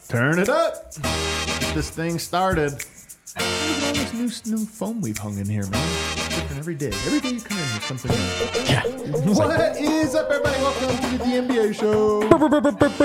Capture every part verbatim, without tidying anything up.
Turn it up. Get this thing started. Look at all this new, new foam we've hung in here, man. It's different every day. Every day you come in, there's something new. Yeah. What is up, everybody? Welcome to the D N B A show. Presented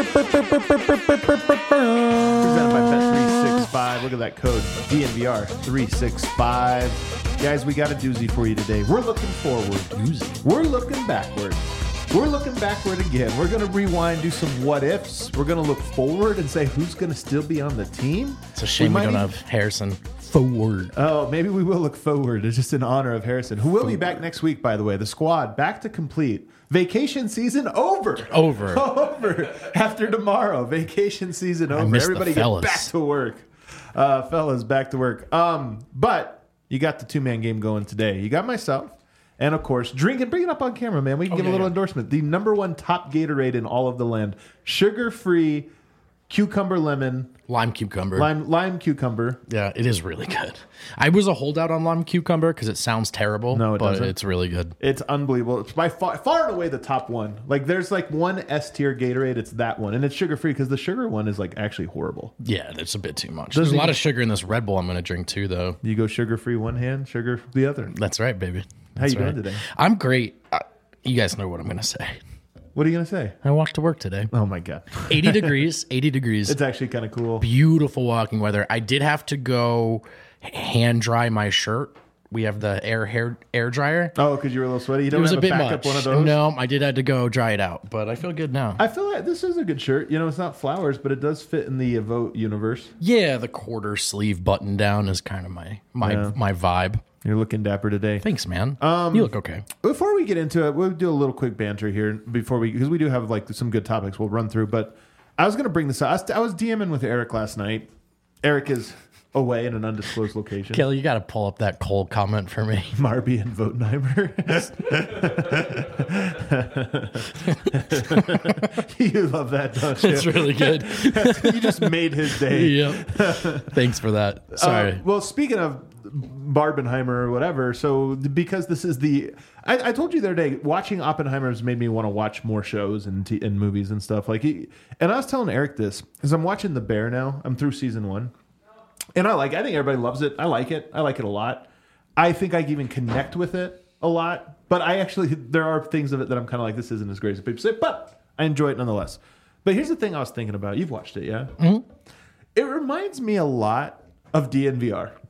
by Bet three sixty-five. Look at that code, D N V R three sixty-five. Guys, we got a doozy for you today. We're looking forward. Doozy. We're looking backward. We're looking backward again. We're going to rewind, do some what ifs. We're going to look forward and say who's going to still be on the team. It's a shame we, we don't even have Harrison forward. Oh, maybe we will look forward. It's just in honor of Harrison, who will forward. be back next week, by the way. The squad back to complete. Vacation season over. Over. Over. After tomorrow. Vacation season over. Everybody get back to work. Uh, fellas, back to work. Um, but you got the two-man game going today. You got myself. And, of course, drink and bring it up on camera, man. We can oh, give yeah, a little yeah. endorsement. The number one top Gatorade in all of the land. Sugar-free, cucumber lemon. Lime cucumber. Lime lime cucumber. Yeah, it is really good. I was a holdout on lime cucumber because it sounds terrible. No, it but doesn't. It's really good. It's unbelievable. It's by far, far and away the top one. Like, there's like one S-tier Gatorade. It's that one. And it's sugar-free because the sugar one is like actually horrible. Yeah, that's a bit too much. There's, There's a lot of sugar in this Red Bull I'm going to drink too, though. You go sugar-free one hand, sugar the other. That's right, baby. How you right. doing today? I'm great. Uh, you guys know what I'm going to say. What are you going to say? I walked to work today. Oh, my God. eighty degrees. eighty degrees. It's actually kind of cool. Beautiful walking weather. I did have to go hand dry my shirt. We have the air hair air dryer. Oh, because you were a little sweaty? You don't it was have a bit a backup much. one of those? No, I did have to go dry it out, but I feel good now. I feel like this is a good shirt. You know, it's not flowers, but it does fit in the Evote universe. Yeah, the quarter sleeve button down is kind of my my yeah. my vibe. You're looking dapper today. Thanks, man. Um, you look okay. Before we get into it, we'll do a little quick banter here before we, because we do have like some good topics we'll run through. But I was going to bring this up. I was, I was DMing with Eric last night. Eric is away in an undisclosed location. Kelly, you got to pull up that Cole comment for me. Marby and Votenheimer. You love that, don't you? It's really good. You just made his day. Yep. Thanks for that. Sorry. Uh, well, speaking of Barbenheimer or whatever, so because this is the... I, I told you the other day, watching Oppenheimer has made me want to watch more shows and, t- and movies and stuff. Like, he, and I was telling Eric this, because I'm watching The Bear now. I'm through season one. And I like it. I think everybody loves it. I like it. I like it a lot. I think I can even connect with it a lot. But I actually, there are things of it that I'm kind of like, this isn't as great as people say, but I enjoy it nonetheless. But here's the thing I was thinking about. You've watched it, yeah? Mm-hmm. It reminds me a lot of D N V R.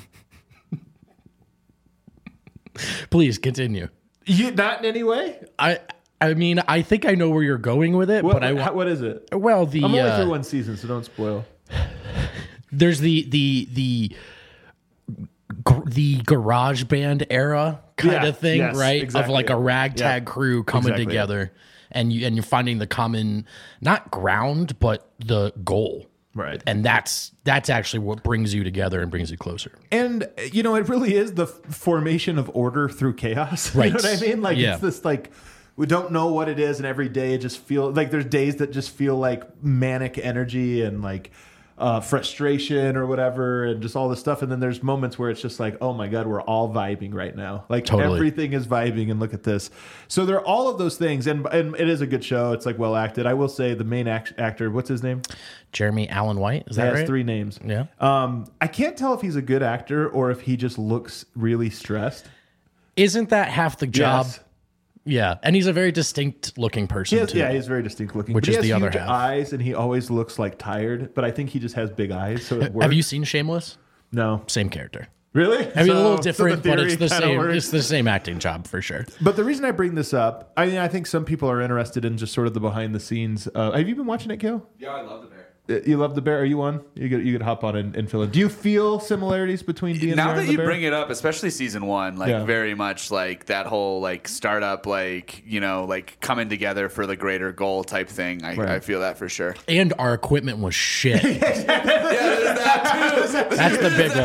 Please continue. You not in any way? I I mean, I think I know where you're going with it, what, but I how, what is it? Well, the I'm only uh, through one season, so don't spoil. There's the the the the garage band era kind yeah, of thing, yes, right? Exactly. Of like a ragtag yep. crew coming exactly. together, and you and you're finding the common not ground, but the goal. Right. And that's that's actually what brings you together and brings you closer. And, you know, it really is the f- formation of order through chaos. Right. You know what I mean? Like, yeah. it's this, like, we don't know what it is, and every day it just feels like there's days that just feel like manic energy and, like, uh, frustration or whatever, and just all this stuff. And then there's moments where it's just like, oh, my God, we're all vibing right now. Like, totally. Everything is vibing, and look at this. So there are all of those things, and, and it is a good show. It's, like, well acted. I will say the main act- actor, what's his name? Jeremy Allen White, is that right? right? He has three names. Yeah. Um, I can't tell if he's a good actor or if he just looks really stressed. Isn't that half the job? Yes. Yeah, and he's a very distinct looking person He has, too. yeah, he's very distinct looking. Which but is he has the other huge half. eyes, and he always looks like tired. But I think he just has big eyes, so it works. Have you seen Shameless? No. Same character. Really? I mean, so, a little so different, the but it's the same. works. It's the same acting job for sure. But the reason I bring this up, I mean, I think some people are interested in just sort of the behind the scenes. Uh, have you been watching it, Kale? Yeah, I love The Bear. You love The Bear? Are you on? You could you could hop on and, and fill in. Do you feel similarities between D N V R Now and that The you Bear? bring it up, especially season one, like Yeah. very much like that whole like startup, like, you know, like coming together for the greater goal type thing. I, Right. I feel that for sure. And our equipment was shit. Yeah, there's that too. That's the big one. It's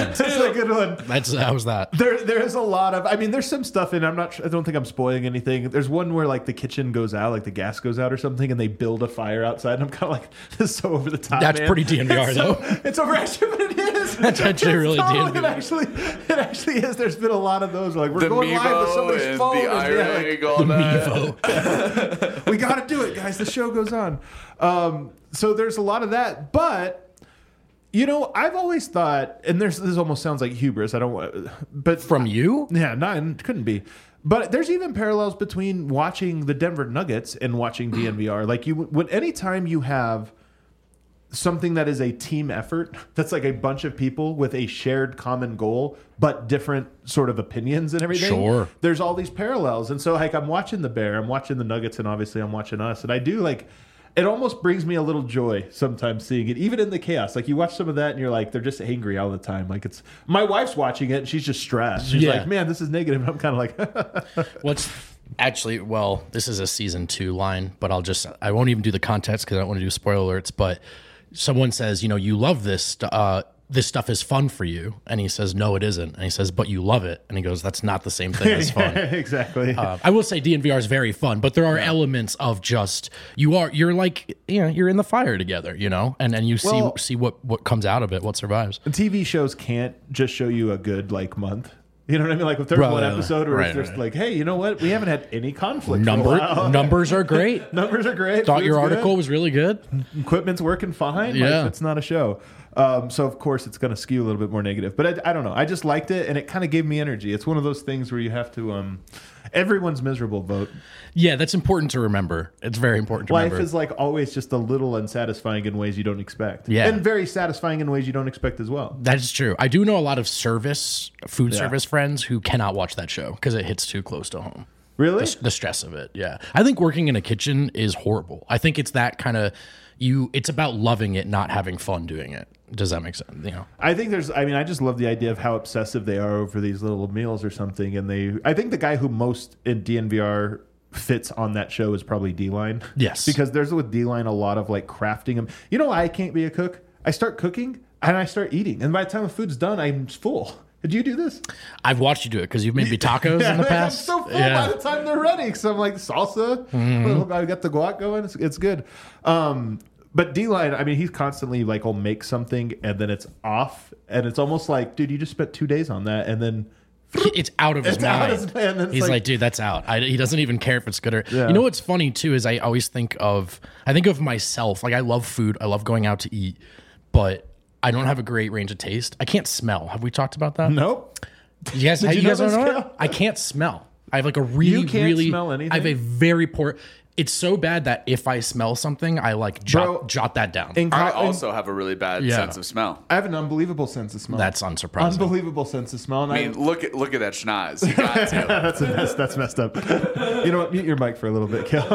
a good one. That's how was that? There, there is a lot of. I mean, there's some stuff in. I'm not. I don't think I'm spoiling anything. There's one where like the kitchen goes out, like the gas goes out or something, and they build a fire outside. And I'm kind of like, this is so over the top. That's man. pretty D N V R it's though. So, it's over actually, but it is. That's actually It's really totally- D N V R. It actually, it actually is. There's been a lot of those. Like we're The going live with Mevo somebody's and phone. the and, yeah, like, eye ring, all that. Mevo. we got to do it, guys. The show goes on. Um, so there's a lot of that, but. You know, I've always thought, and there's this almost sounds like hubris. I don't want, but From you? yeah, no, it couldn't be. But there's even parallels between watching the Denver Nuggets and watching D N V R. Like you, when anytime you have something that is a team effort, that's like a bunch of people with a shared common goal, but different sort of opinions and everything. Sure. There's all these parallels, and so like I'm watching the Bear, I'm watching the Nuggets, and obviously I'm watching us, and I do like. It almost brings me a little joy sometimes seeing it, even in the chaos. Like you watch some of that and you're like, they're just angry all the time. Like it's my wife's watching it and she's just stressed. She's Yeah. like, man, this is negative. And I'm kind of like, What's actually, well, this is a season two line, but I'll just, I won't even do the context because I don't want to do spoiler alerts. But someone says, you know, you love this, st- uh, this stuff is fun for you. And he says, no, it isn't. And he says, but you love it. And he goes, that's not the same thing as fun. exactly. Uh, I will say D N V R is very fun, but there are elements of just you are you're like you know you're in the fire together, you know, and and you Well- see see what what comes out of it, what survives. T V shows can't just show you a good like month. You know what I mean? Like if there's Right, one right, episode where right, it's just right. like, hey, you know what? We haven't had any conflict. for a Number while. numbers are great. Numbers are great. Thought your Food's article good. was really good. Equipment's working fine. Yeah. Like, it's not a show. Um, so of course it's going to skew a little bit more negative, but I, I don't know. I just liked it, and it kind of gave me energy. It's one of those things where you have to. Um, everyone's miserable. Vote. Yeah, that's important to remember. It's very important to Life remember. is like always just a little unsatisfying in ways you don't expect. Yeah. and very satisfying in ways you don't expect as well. That is true. I do know a lot of service food Yeah. service friends who cannot watch that show because it hits too close to home. Really? The, the stress of it. Yeah, I think working in a kitchen is horrible. I think it's that kind of you. It's about loving it, not having fun doing it. Does that make sense? You know. I think there's. I mean, I just love the idea of how obsessive they are over these little meals or something. And they. I think the guy who most in D N V R fits on that show is probably D-Line. Yes. Because there's with D-Line a lot of like crafting them. You know why I can't be a cook? I start cooking and I start eating, and by the time the food's done, I'm full. Did you do this? I've watched you do it because you've made me tacos in the past. I'm so full Yeah. by the time they're ready. Because I'm like salsa. Mm-hmm. I got the guac going. It's, it's good. Um, but D-Line, I mean, he's constantly like, will make something and then it's off, and it's almost like, dude, you just spent two days on that, and then It's out of his It's out mind. of his mind. It's He's like, like- dude, that's out. I, he doesn't even care if it's good or. Yeah. You know what's funny too is I always think of I think of myself. Like I love food. I love going out to eat, but I don't have a great range of taste. I can't smell. Have we talked about that? nope. You guys, Did you you guys know don't this, know Cal? it? I can't smell. I have like a really, You can't really. smell anything? I have a very poor. It's so bad that if I smell something, I like jot, Bro, jot that down. In I co- also have a really bad Yeah. sense of smell. I have an unbelievable sense of smell. That's unsurprising. unbelievable sense of smell. And I mean, look at look at that schnoz. You got to. that's a mess, that's messed up. You know what? Mute your mic for a little bit, Kel.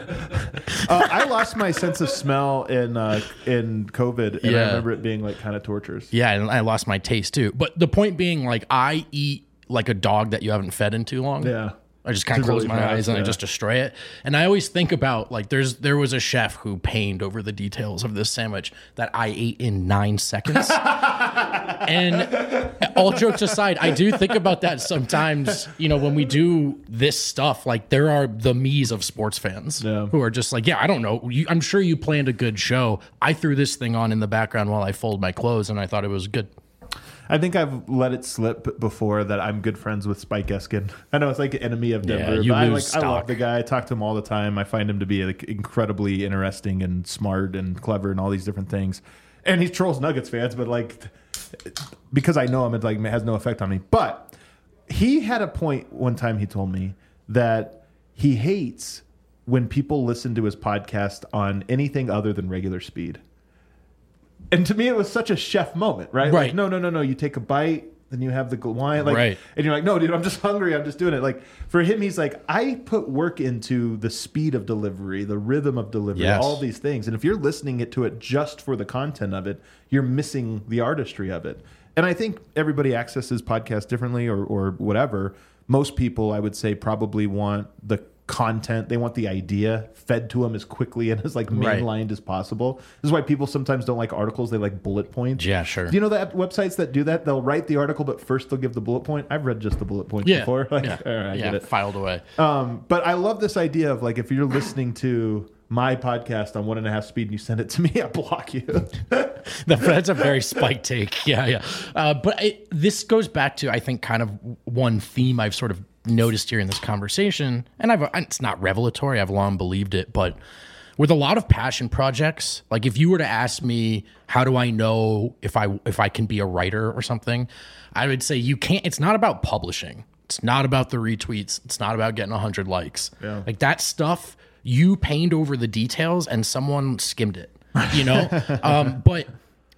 uh, I lost my sense of smell in uh, in COVID, and I Yeah. remember it being like kind of torturous. Yeah, and I lost my taste too. But the point being, like, I eat like a dog that you haven't fed in too long. Yeah. I just kind of Just close really my fast, eyes and I yeah. just destroy it. And I always think about like there's there was a chef who pained over the details of this sandwich that I ate in nine seconds. And all jokes aside, I do think about that sometimes. You know, when we do this stuff, like there are the me's of sports fans Yeah. who are just like, yeah, I don't know. You, I'm sure you planned a good show. I threw this thing on in the background while I fold my clothes, and I thought it was good. I think I've let it slip before that I'm good friends with Spike Eskin. I know it's like an enemy of Denver, you but I, lose like, I love stock. the guy. I talk to him all the time. I find him to be like incredibly interesting and smart and clever and all these different things. And he trolls Nuggets fans, but like because I know him, it like has no effect on me. But he had a point one time. He told me that he hates when people listen to his podcast on anything other than regular speed. And to me, it was such a chef moment, right? Right. Like, no, no, no, no. You take a bite, then you have the wine, like, Right. and you're like, no, dude, I'm just hungry. I'm just doing it. Like for him, he's like, I put work into the speed of delivery, the rhythm of delivery, Yes. all these things. And if you're listening it to it just for the content of it, you're missing the artistry of it. And I think everybody accesses podcasts differently, or or whatever. Most people, I would say, probably want the content. They want the idea fed to them as quickly and as like Right. mainlined as possible. This is why people sometimes don't like articles. They like bullet points. Yeah, sure. Do you know that websites that do that? They'll write the article, but first they'll give the bullet point. I've read just the bullet points Yeah. before. Like, yeah. all right, I yeah. get it. Filed away. Um, but I love this idea of like if you're listening to my podcast on one and a half speed and you send it to me, I block you. That- That's a very spiked take. Yeah, yeah. Uh, but it, this goes back to, I think, kind of one theme I've sort of noticed here in this conversation. And I've it's not revelatory. I've long believed it. But with a lot of passion projects, like if you were to ask me, how do I know if I if I can be a writer or something? I would say you can't. It's not about publishing. It's not about the retweets. It's not about getting one hundred likes. Yeah. Like that stuff, you pained over the details and someone skimmed it. You know, um, but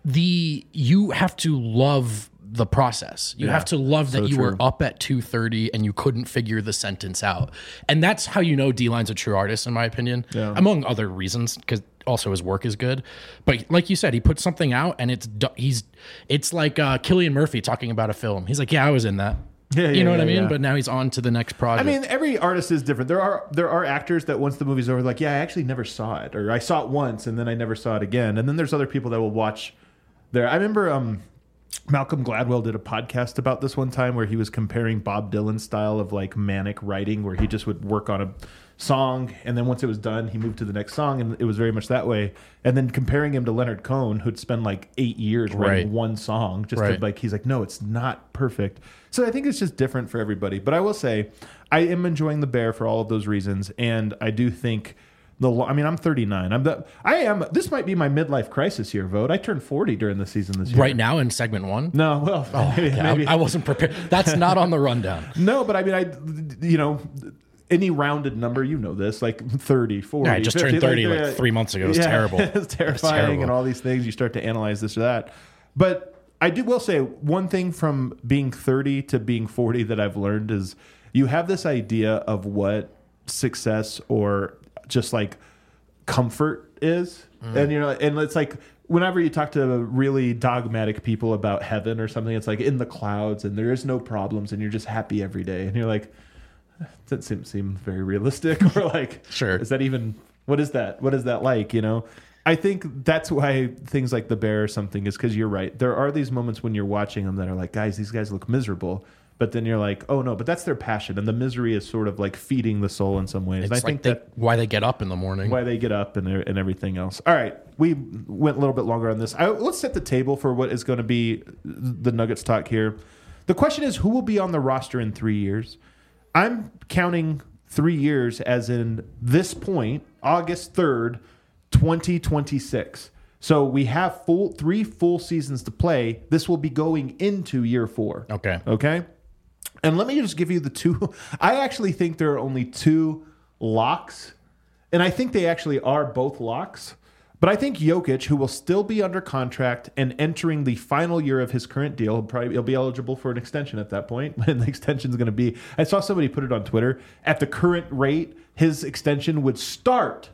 the you have to love the process. You Yeah, have to love that so you true. were up at two thirty and you couldn't figure the sentence out. And that's how you know D-Line's a true artist, in my opinion, Yeah. among other reasons, because also his work is good. But like you said, he puts something out and it's do- he's it's like uh, Cillian Murphy talking about a film. He's like, yeah, I was in that. Yeah, you yeah, know what yeah, I mean? yeah. But now he's on to the next I project. mean, every artist is different. There are there are actors that once the movie's over, like, yeah, I actually never saw it, or I saw it once and then I never saw it again. And then there's other people that will watch there. I remember um, Malcolm Gladwell did a podcast about this one time where he was comparing Bob Dylan's style of like manic writing, where he just would work on a song and then once it was done, he moved to the next song, and it was very much that way. And then comparing him to Leonard Cohen, who'd spend like eight years writing Right. one song, just Right. to like, he's like, no, it's not perfect. So I think it's just different for everybody. But I will say, I am enjoying The Bear for all of those reasons, and I do think the. lo- I mean, I'm thirty-nine. I'm the. I am. This might be my midlife crisis year, Vote. I turned forty during the season this year. right now in segment one. No, well, maybe, Okay, maybe. I, I wasn't prepared. That's not on the rundown. no, but I mean, I, you know, any rounded number, you know this, like thirty, forty. Yeah, I just fifty, turned thirty like uh, three months ago. It was yeah, terrible. It's terrifying, terrible. and all these things. You start to analyze this or that. But I do will say one thing from being thirty to being forty that I've learned is you have this idea of what success or just like comfort is, and you know, and it's like whenever you talk to really dogmatic people about heaven or something, it's like in the clouds and there is no problems and you're just happy every day, and you're like, that doesn't seem, seem very realistic, or like, Sure. is that even, what is that? What is that like? You know, I think that's why things like The Bear or something is because you're right. There are these moments when you're watching them that are like, guys, these guys look miserable. But then you're like, oh no, but that's their passion. And the misery is sort of like feeding the soul in some ways. It's and I like think they, that why they get up in the morning. why they get up and, and everything else. All right. We went a little bit longer on this. I, let's set the table for what is going to be the Nuggets talk here. The question is, who will be on the roster in three years? I'm counting three years as in this point, August third, twenty twenty-six. So we have full three full seasons to play. This will be going into year four. Okay. Okay. And let me just give you the two. I actually think there are only two locks, and I think they actually are both locks. But I think Jokic, who will still be under contract and entering the final year of his current deal, he'll probably he'll be eligible for an extension at that point. And the extension is going to be, I saw somebody put it on Twitter, at the current rate, his extension would start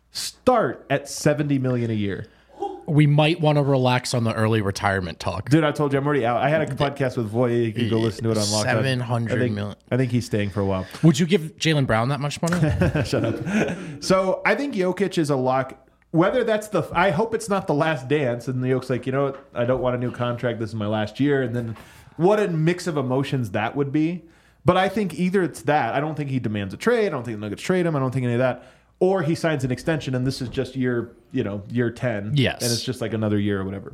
start at seventy million dollars a year. We might want to relax on the early retirement talk. Dude, I told you I'm already out. I had a podcast with Voya. You can go listen to it on Locked On. seven hundred I think- million. I think he's staying for a while. Would you give Jaylen Brown that much money? Shut up. So I think Jokic is a lock. Whether that's the, I hope it's not the last dance, and the Jokic's like, you know what, I don't want a new contract. This is my last year, and then what a mix of emotions that would be. But I think either it's that. I don't think he demands a trade. I don't think the Nuggets trade him. I don't think any of that. Or he signs an extension, and this is just year, you know, year ten. Yes. And it's just like another year or whatever.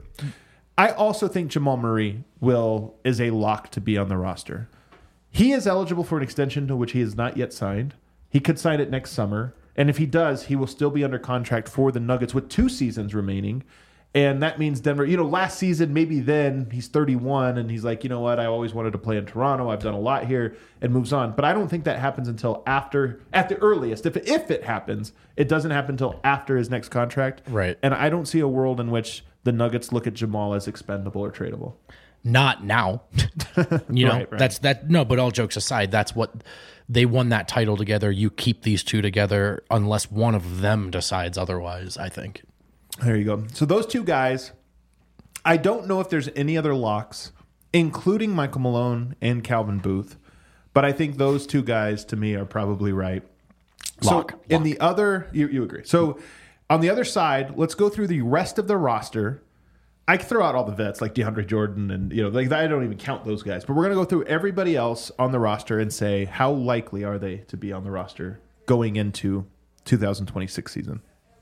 I also think Jamal Murray will is a lock to be on the roster. He is eligible for an extension to which he has not yet signed. He could sign it next summer. And if he does, he will still be under contract for the Nuggets with two seasons remaining. And that means Denver, you know, last season, maybe then he's thirty-one and he's like, you know what, I always wanted to play in Toronto. I've done a lot here, and moves on. But I don't think that happens until after, at the earliest. If it, if it happens, it doesn't happen until after his next contract. Right. And I don't see a world in which the Nuggets look at Jamal as expendable or tradable. Not now. You know, Right, right. that's that. No, but all jokes aside, that's what they won that title together. You keep these two together unless one of them decides otherwise, I think. There you go. So those two guys, I don't know if there's any other locks, including Michael Malone and Calvin Booth, but I think those two guys to me are probably right. Lock. So in Lock. the other, you, you agree. So on the other side, let's go through the rest of the roster. I can throw out all the vets like DeAndre Jordan and, you know, like I don't even count those guys. But we're going to go through everybody else on the roster and say how likely are they to be on the roster going into two thousand twenty-six season.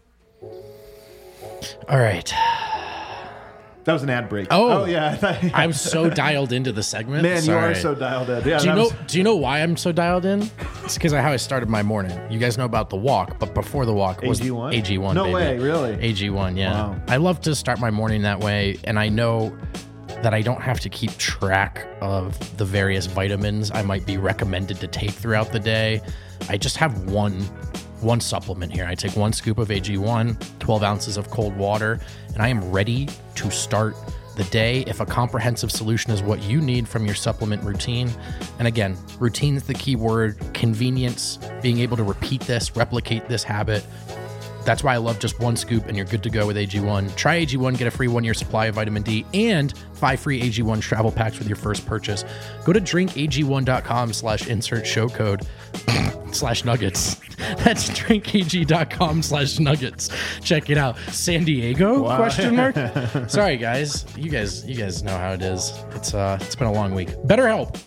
All right. That was an ad break. Oh, oh yeah. I thought- I'm so dialed into the segment. Man, Sorry. you are so dialed in. Yeah, Do you that know? was- Do you know why I'm so dialed in? It's because of how I started my morning. You guys know about the walk, but before the walk was A G one? A G one. No baby. way, really? A G one, yeah. Wow. I love to start my morning that way, and I know that I don't have to keep track of the various vitamins I might be recommended to take throughout the day. I just have one one supplement here. I take one scoop of A G one, twelve ounces of cold water, and I am ready to start the day. If a comprehensive solution is what you need from your supplement routine, and again, routine is the key word, convenience, being able to repeat this, replicate this habit. That's why I love just one scoop and you're good to go with A G one. Try A G one, get a free one-year supply of vitamin D and five free A G one travel packs with your first purchase. Go to drink A G one dot com slash insert show code slash nuggets. That's drink A G dot com slash nuggets. Check it out. San Diego? Wow. Question mark. Sorry guys. You guys you guys know how it is. It's uh it's been a long week. BetterHelp.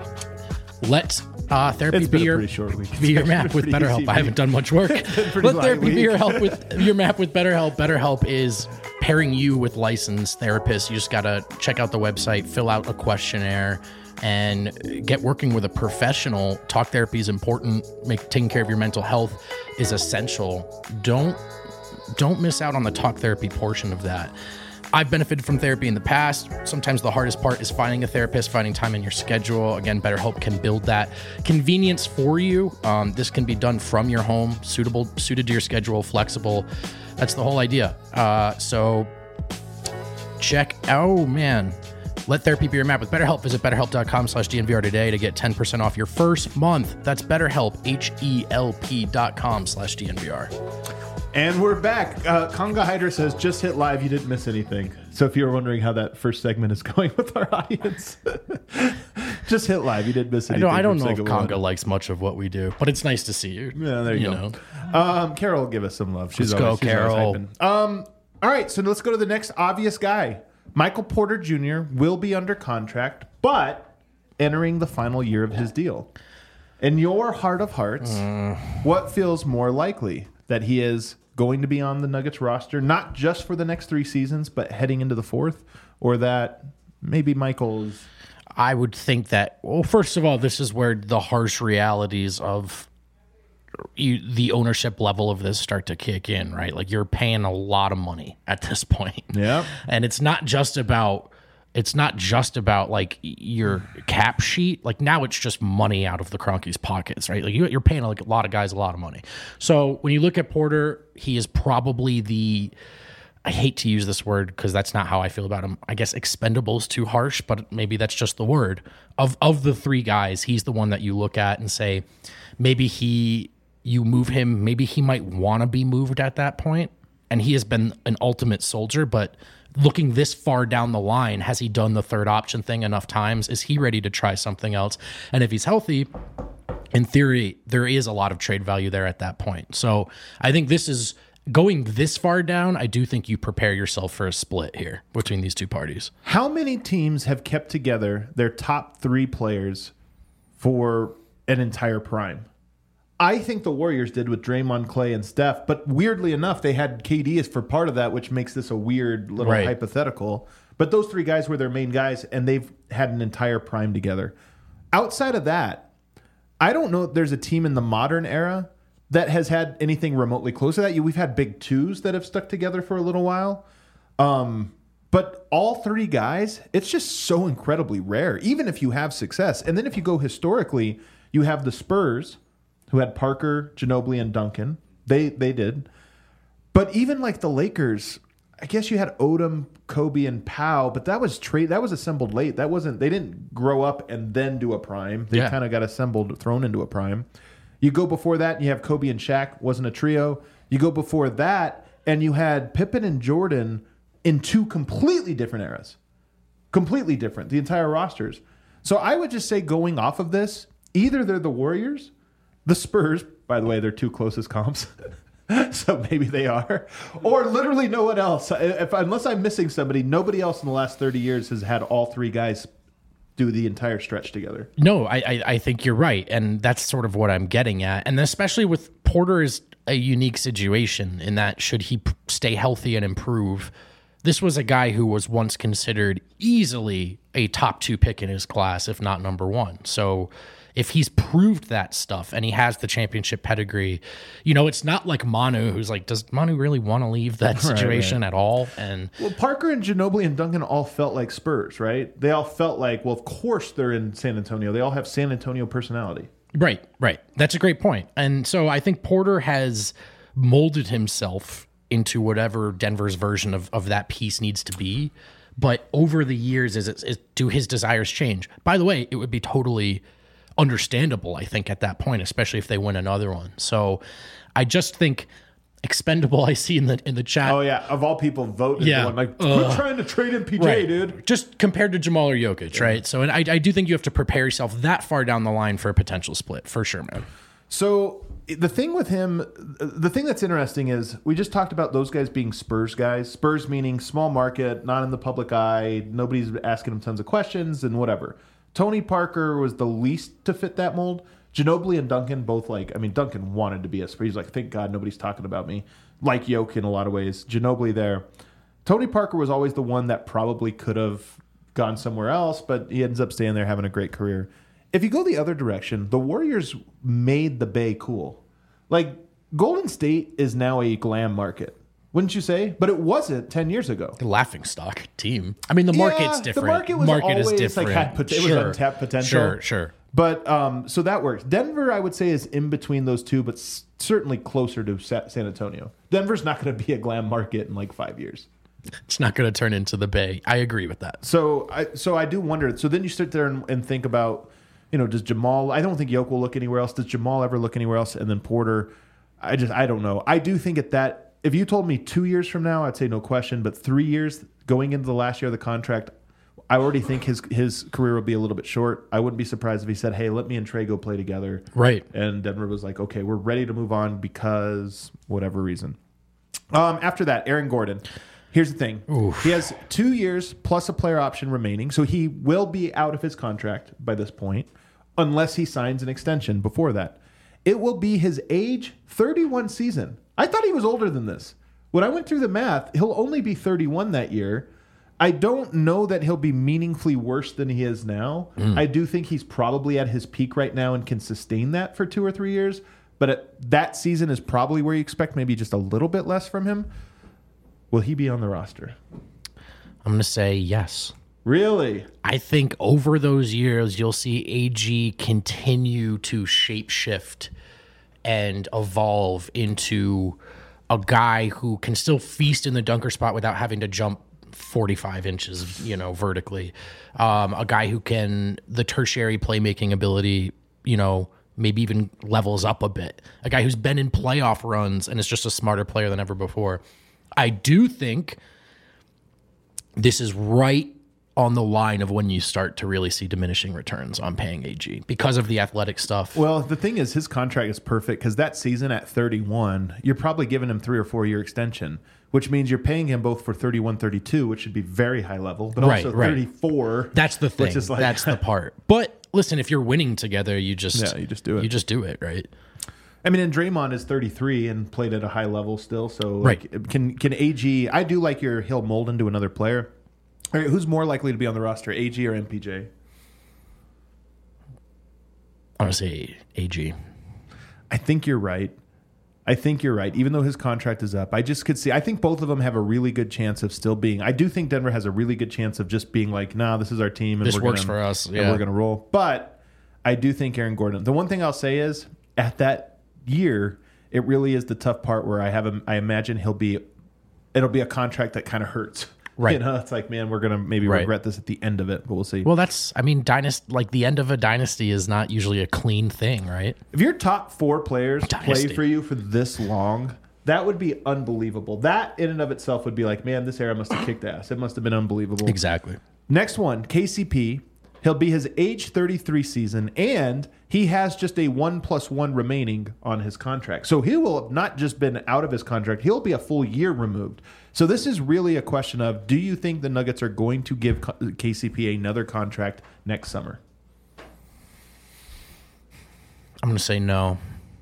Let uh, therapy It's be been a your pretty short week. be your It's map been a with pretty BetterHelp. easy I haven't week. done much work. pretty Let light therapy week. be your help with your map with BetterHelp. BetterHelp is pairing you with licensed therapists. You just gotta check out the website, fill out a questionnaire, and get working with a professional. Talk therapy is important. Make taking care of your mental health is essential. Don't don't miss out on the talk therapy portion of that. I've benefited from therapy in the past. Sometimes the hardest part is finding a therapist, finding time in your schedule. Again, BetterHelp can build that convenience for you. Um, this can be done from your home, suitable, suited to your schedule, flexible. That's the whole idea. Uh, so check, oh man, let therapy be your map with BetterHelp. Visit betterhelp dot com slash D N V R today to get ten percent off your first month. That's BetterHelp, H E L P dot com slash D N V R. And we're back. Uh, Conga Hydra says, just hit live. You didn't miss anything. So if you were wondering how that first segment is going with our audience, just hit live. You didn't miss I anything. don't, I don't from know if segment Conga one. likes much of what we do, but it's nice to see you. Yeah, there you, go. know. Um, Carol, give us some love. She's Let's go, always, she's always Carol. hyping. Um, all right, so let's go to the next obvious guy. Michael Porter Junior will be under contract, but entering the final year of his deal. In your heart of hearts, Mm. what feels more likely? That he is going to be on the Nuggets roster, not just for the next three seasons, but heading into the fourth? Or that maybe Michael's... I would think that, well, first of all, this is where the harsh realities of you, the ownership level of this start to kick in, right? Like you're paying a lot of money at this point. Yeah. And it's not just about, it's not just about like your cap sheet. Like now it's just money out of the Kroenke's pockets, right? Like you, you're paying like a lot of guys a lot of money. So when you look at Porter, he is probably the, I hate to use this word because that's not how I feel about him. I guess expendable is too harsh, but maybe that's just the word. Of of the three guys, he's the one that you look at and say, maybe he, you move him, maybe he might want to be moved at that point. And he has been an ultimate soldier, but looking this far down the line, has he done the third option thing enough times? Is he ready to try something else? And if he's healthy, in theory, there is a lot of trade value there at that point. So I think this is going this far down. I do think you prepare yourself for a split here between these two parties. How many teams have kept together their top three players for an entire prime? I think the Warriors did with Draymond, Clay, and Steph, but weirdly enough, they had K D as for part of that, which makes this a weird little Right. hypothetical. But those three guys were their main guys, and they've had an entire prime together. Outside of that, I don't know if there's a team in the modern era that has had anything remotely close to that. We've had big twos that have stuck together for a little while. Um, but all three guys, it's just so incredibly rare, even if you have success. And then if you go historically, you have the Spurs, who had Parker, Ginobili, and Duncan. They they did. But even like the Lakers, I guess you had Odom, Kobe, and Powell, but that was trade that was assembled late. That wasn't they didn't grow up and then do a prime. They Yeah. kind of got assembled, thrown into a prime. You go before that, and you have Kobe and Shaq, wasn't a trio. You go before that, and you had Pippen and Jordan in two completely different eras. Completely different, the entire rosters. So I would just say going off of this, either they're the Warriors, the Spurs, By the way, they're two closest comps. So maybe they are. Or literally no one else. If, unless I'm missing somebody, nobody else in the last thirty years has had all three guys do the entire stretch together. No, I, I, I think you're right. And that's sort of what I'm getting at. And especially with Porter is a unique situation in that should he p- stay healthy and improve, this was a guy who was once considered easily a top two pick in his class, if not number one. So if he's proved that stuff and he has the championship pedigree, you know, it's not like Manu, who's like, does Manu really want to leave that situation right, right. at all? And well, Parker and Ginobili and Duncan all felt like Spurs, right? They all felt like, well, of course they're in San Antonio. They all have San Antonio personality. Right, right. That's a great point. And so I think Porter has molded himself into whatever Denver's version of, of that piece needs to be. But over the years, is, it, is do his desires change? By the way, it would be totally understandable, I think, at that point, especially if they win another one. So I just think expendable, I see in the in the chat. Oh, yeah. Of all people, vote. Yeah. One. Like, quit uh, trying to trade in P J, right. dude. Just compared to Jamal or Jokic, yeah. right? So and I, I do think you have to prepare yourself that far down the line for a potential split, for sure, man. So the thing with him, the thing that's interesting is we just talked about those guys being Spurs guys. Spurs meaning small market, not in the public eye. Nobody's asking him tons of questions and whatever. Tony Parker was the least to fit that mold. Ginobili and Duncan both like, I mean, Duncan wanted to be a Spurs. He's like, thank God nobody's talking about me. Like Yoke in a lot of ways. Ginobili there. Tony Parker was always the one that probably could have gone somewhere else, but he ends up staying there having a great career. If you go the other direction, the Warriors made the Bay cool. Like, Golden State is now a glam market. Wouldn't you say? But it wasn't ten years ago. The laughing stock team. I mean, the market's yeah, different. The market was market always is different. Like had pot- it sure. was untapped potential. Sure, sure. But um, so that works. Denver, I would say, is in between those two, but s- certainly closer to Sa- San Antonio. Denver's not going to be a glam market in like five years. It's not going to turn into the Bay. I agree with that. So I so I do wonder. So then you sit there and, and think about, you know, does Jamal? I don't think Yoke will look anywhere else. Does Jamal ever look anywhere else? And then Porter, I just I don't know. I do think at that. If you told me two years from now, I'd say no question. But three years going into the last year of the contract, I already think his his career will be a little bit short. I wouldn't be surprised if he said, hey, let me and Trey go play together. Right. And Denver was like, okay, we're ready to move on because whatever reason. Um, after that, Aaron Gordon. Here's the thing. Oof. He has two years plus a player option remaining. So he will be out of his contract by this point unless he signs an extension before that. It will be his age thirty-one season. I thought he was older than this. When I went through the math, he'll only be thirty-one that year. I don't know that he'll be meaningfully worse than he is now. Mm. I do think he's probably at his peak right now and can sustain that for two or three years. But at, that season is probably where you expect maybe just a little bit less from him. Will he be on the roster? I'm going to say yes. Really? I think over those years, you'll see A G continue to shapeshift and evolve into a guy who can still feast in the dunker spot without having to jump forty-five inches, you know, vertically. Um, a guy who can, the tertiary playmaking ability, you know, maybe even levels up a bit. A guy who's been in playoff runs and is just a smarter player than ever before. I do think this is right on the line of when you start to really see diminishing returns on paying A G because of the athletic stuff. Well, the thing is, his contract is perfect because that season at thirty-one, you're probably giving him three or four year extension, which means you're paying him both for thirty-one, thirty-two, which should be very high level, but right, also right. thirty-four. That's the thing. Like, that's the part. But listen, if you're winning together, you just yeah, you just do it. You just do it, right? I mean, and Draymond is thirty-three and played at a high level still. So, like, right. can can A G? I do like your he'll mold into another player. All right, who's more likely to be on the roster, A G or M P J? I want to say A G. I think you're right. I think you're right. Even though his contract is up, I just could see. I think both of them have a really good chance of still being. I do think Denver has a really good chance of just being like, nah, this is our team, and this we're works gonna, for us. Yeah, and we're gonna roll. But I do think Aaron Gordon. The one thing I'll say is at that year, it really is the tough part where I have. A, I imagine he'll be. It'll be a contract that kind of hurts. Right. You know, it's like, man, we're going to maybe right. regret this at the end of it, but we'll see. Well, that's, I mean, dynasty, like the end of a dynasty is not usually a clean thing, right? If your top four players dynasty. play for you for this long, that would be unbelievable. That in and of itself would be like, man, this era must have kicked ass. It must have been unbelievable. Exactly. Next one, K C P. He'll be his age thirty-three season, and he has just a one plus one remaining on his contract. So he will have not just been out of his contract, he'll be a full year removed. So this is really a question of, do you think the Nuggets are going to give K C P another contract next summer? I'm going to say no.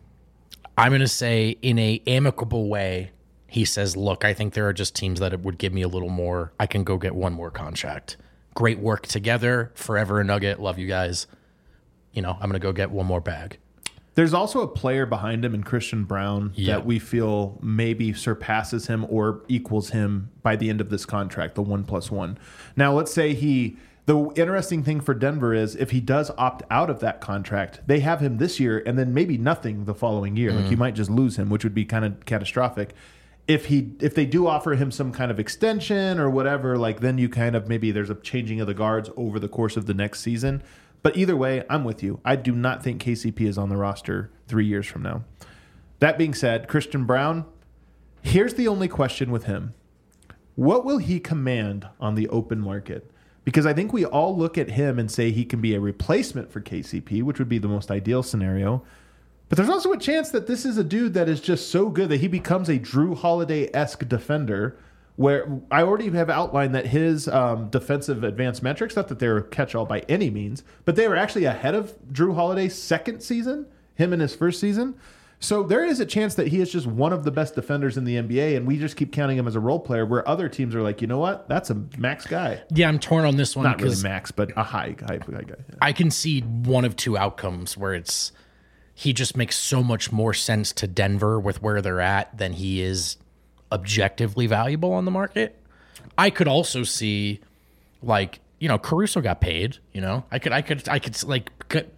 I'm going to say in a amicable way, he says, look, I think there are just teams that would give me a little more. I can go get one more contract. Great work together. Forever a Nugget. Love you guys. You know, I'm going to go get one more bag. There's also a player behind him in Christian Brown Yeah. that we feel maybe surpasses him or equals him by the end of this contract, the one plus one. Now, let's say he... The interesting thing for Denver is if he does opt out of that contract, they have him this year and then maybe nothing the following year. Mm. Like you might just lose him, which would be kind of catastrophic. If he if they do offer him some kind of extension or whatever, like then you kind of maybe there's a changing of the guards over the course of the next season. But either way, I'm with you. I do not think K C P is on the roster three years from now. That being said, Christian Brown, here's the only question with him. What will he command on the open market? Because I think we all look at him and say he can be a replacement for K C P, which would be the most ideal scenario. But there's also a chance that this is a dude that is just so good that he becomes a Drew Holiday-esque defender, where I already have outlined that his um, defensive advanced metrics, not that they were catch-all by any means, but they were actually ahead of Drew Holiday's second season, him in his first season. So there is a chance that he is just one of the best defenders in the N B A, and we just keep counting him as a role player, where other teams are like, you know what? That's a max guy. Yeah, I'm torn on this one. Not really because max, but a high, high, high guy. Yeah. I can see one of two outcomes where it's he just makes so much more sense to Denver with where they're at than he is objectively valuable on the market. I could also see, like, you know, Caruso got paid. You know, I could, I could, I could like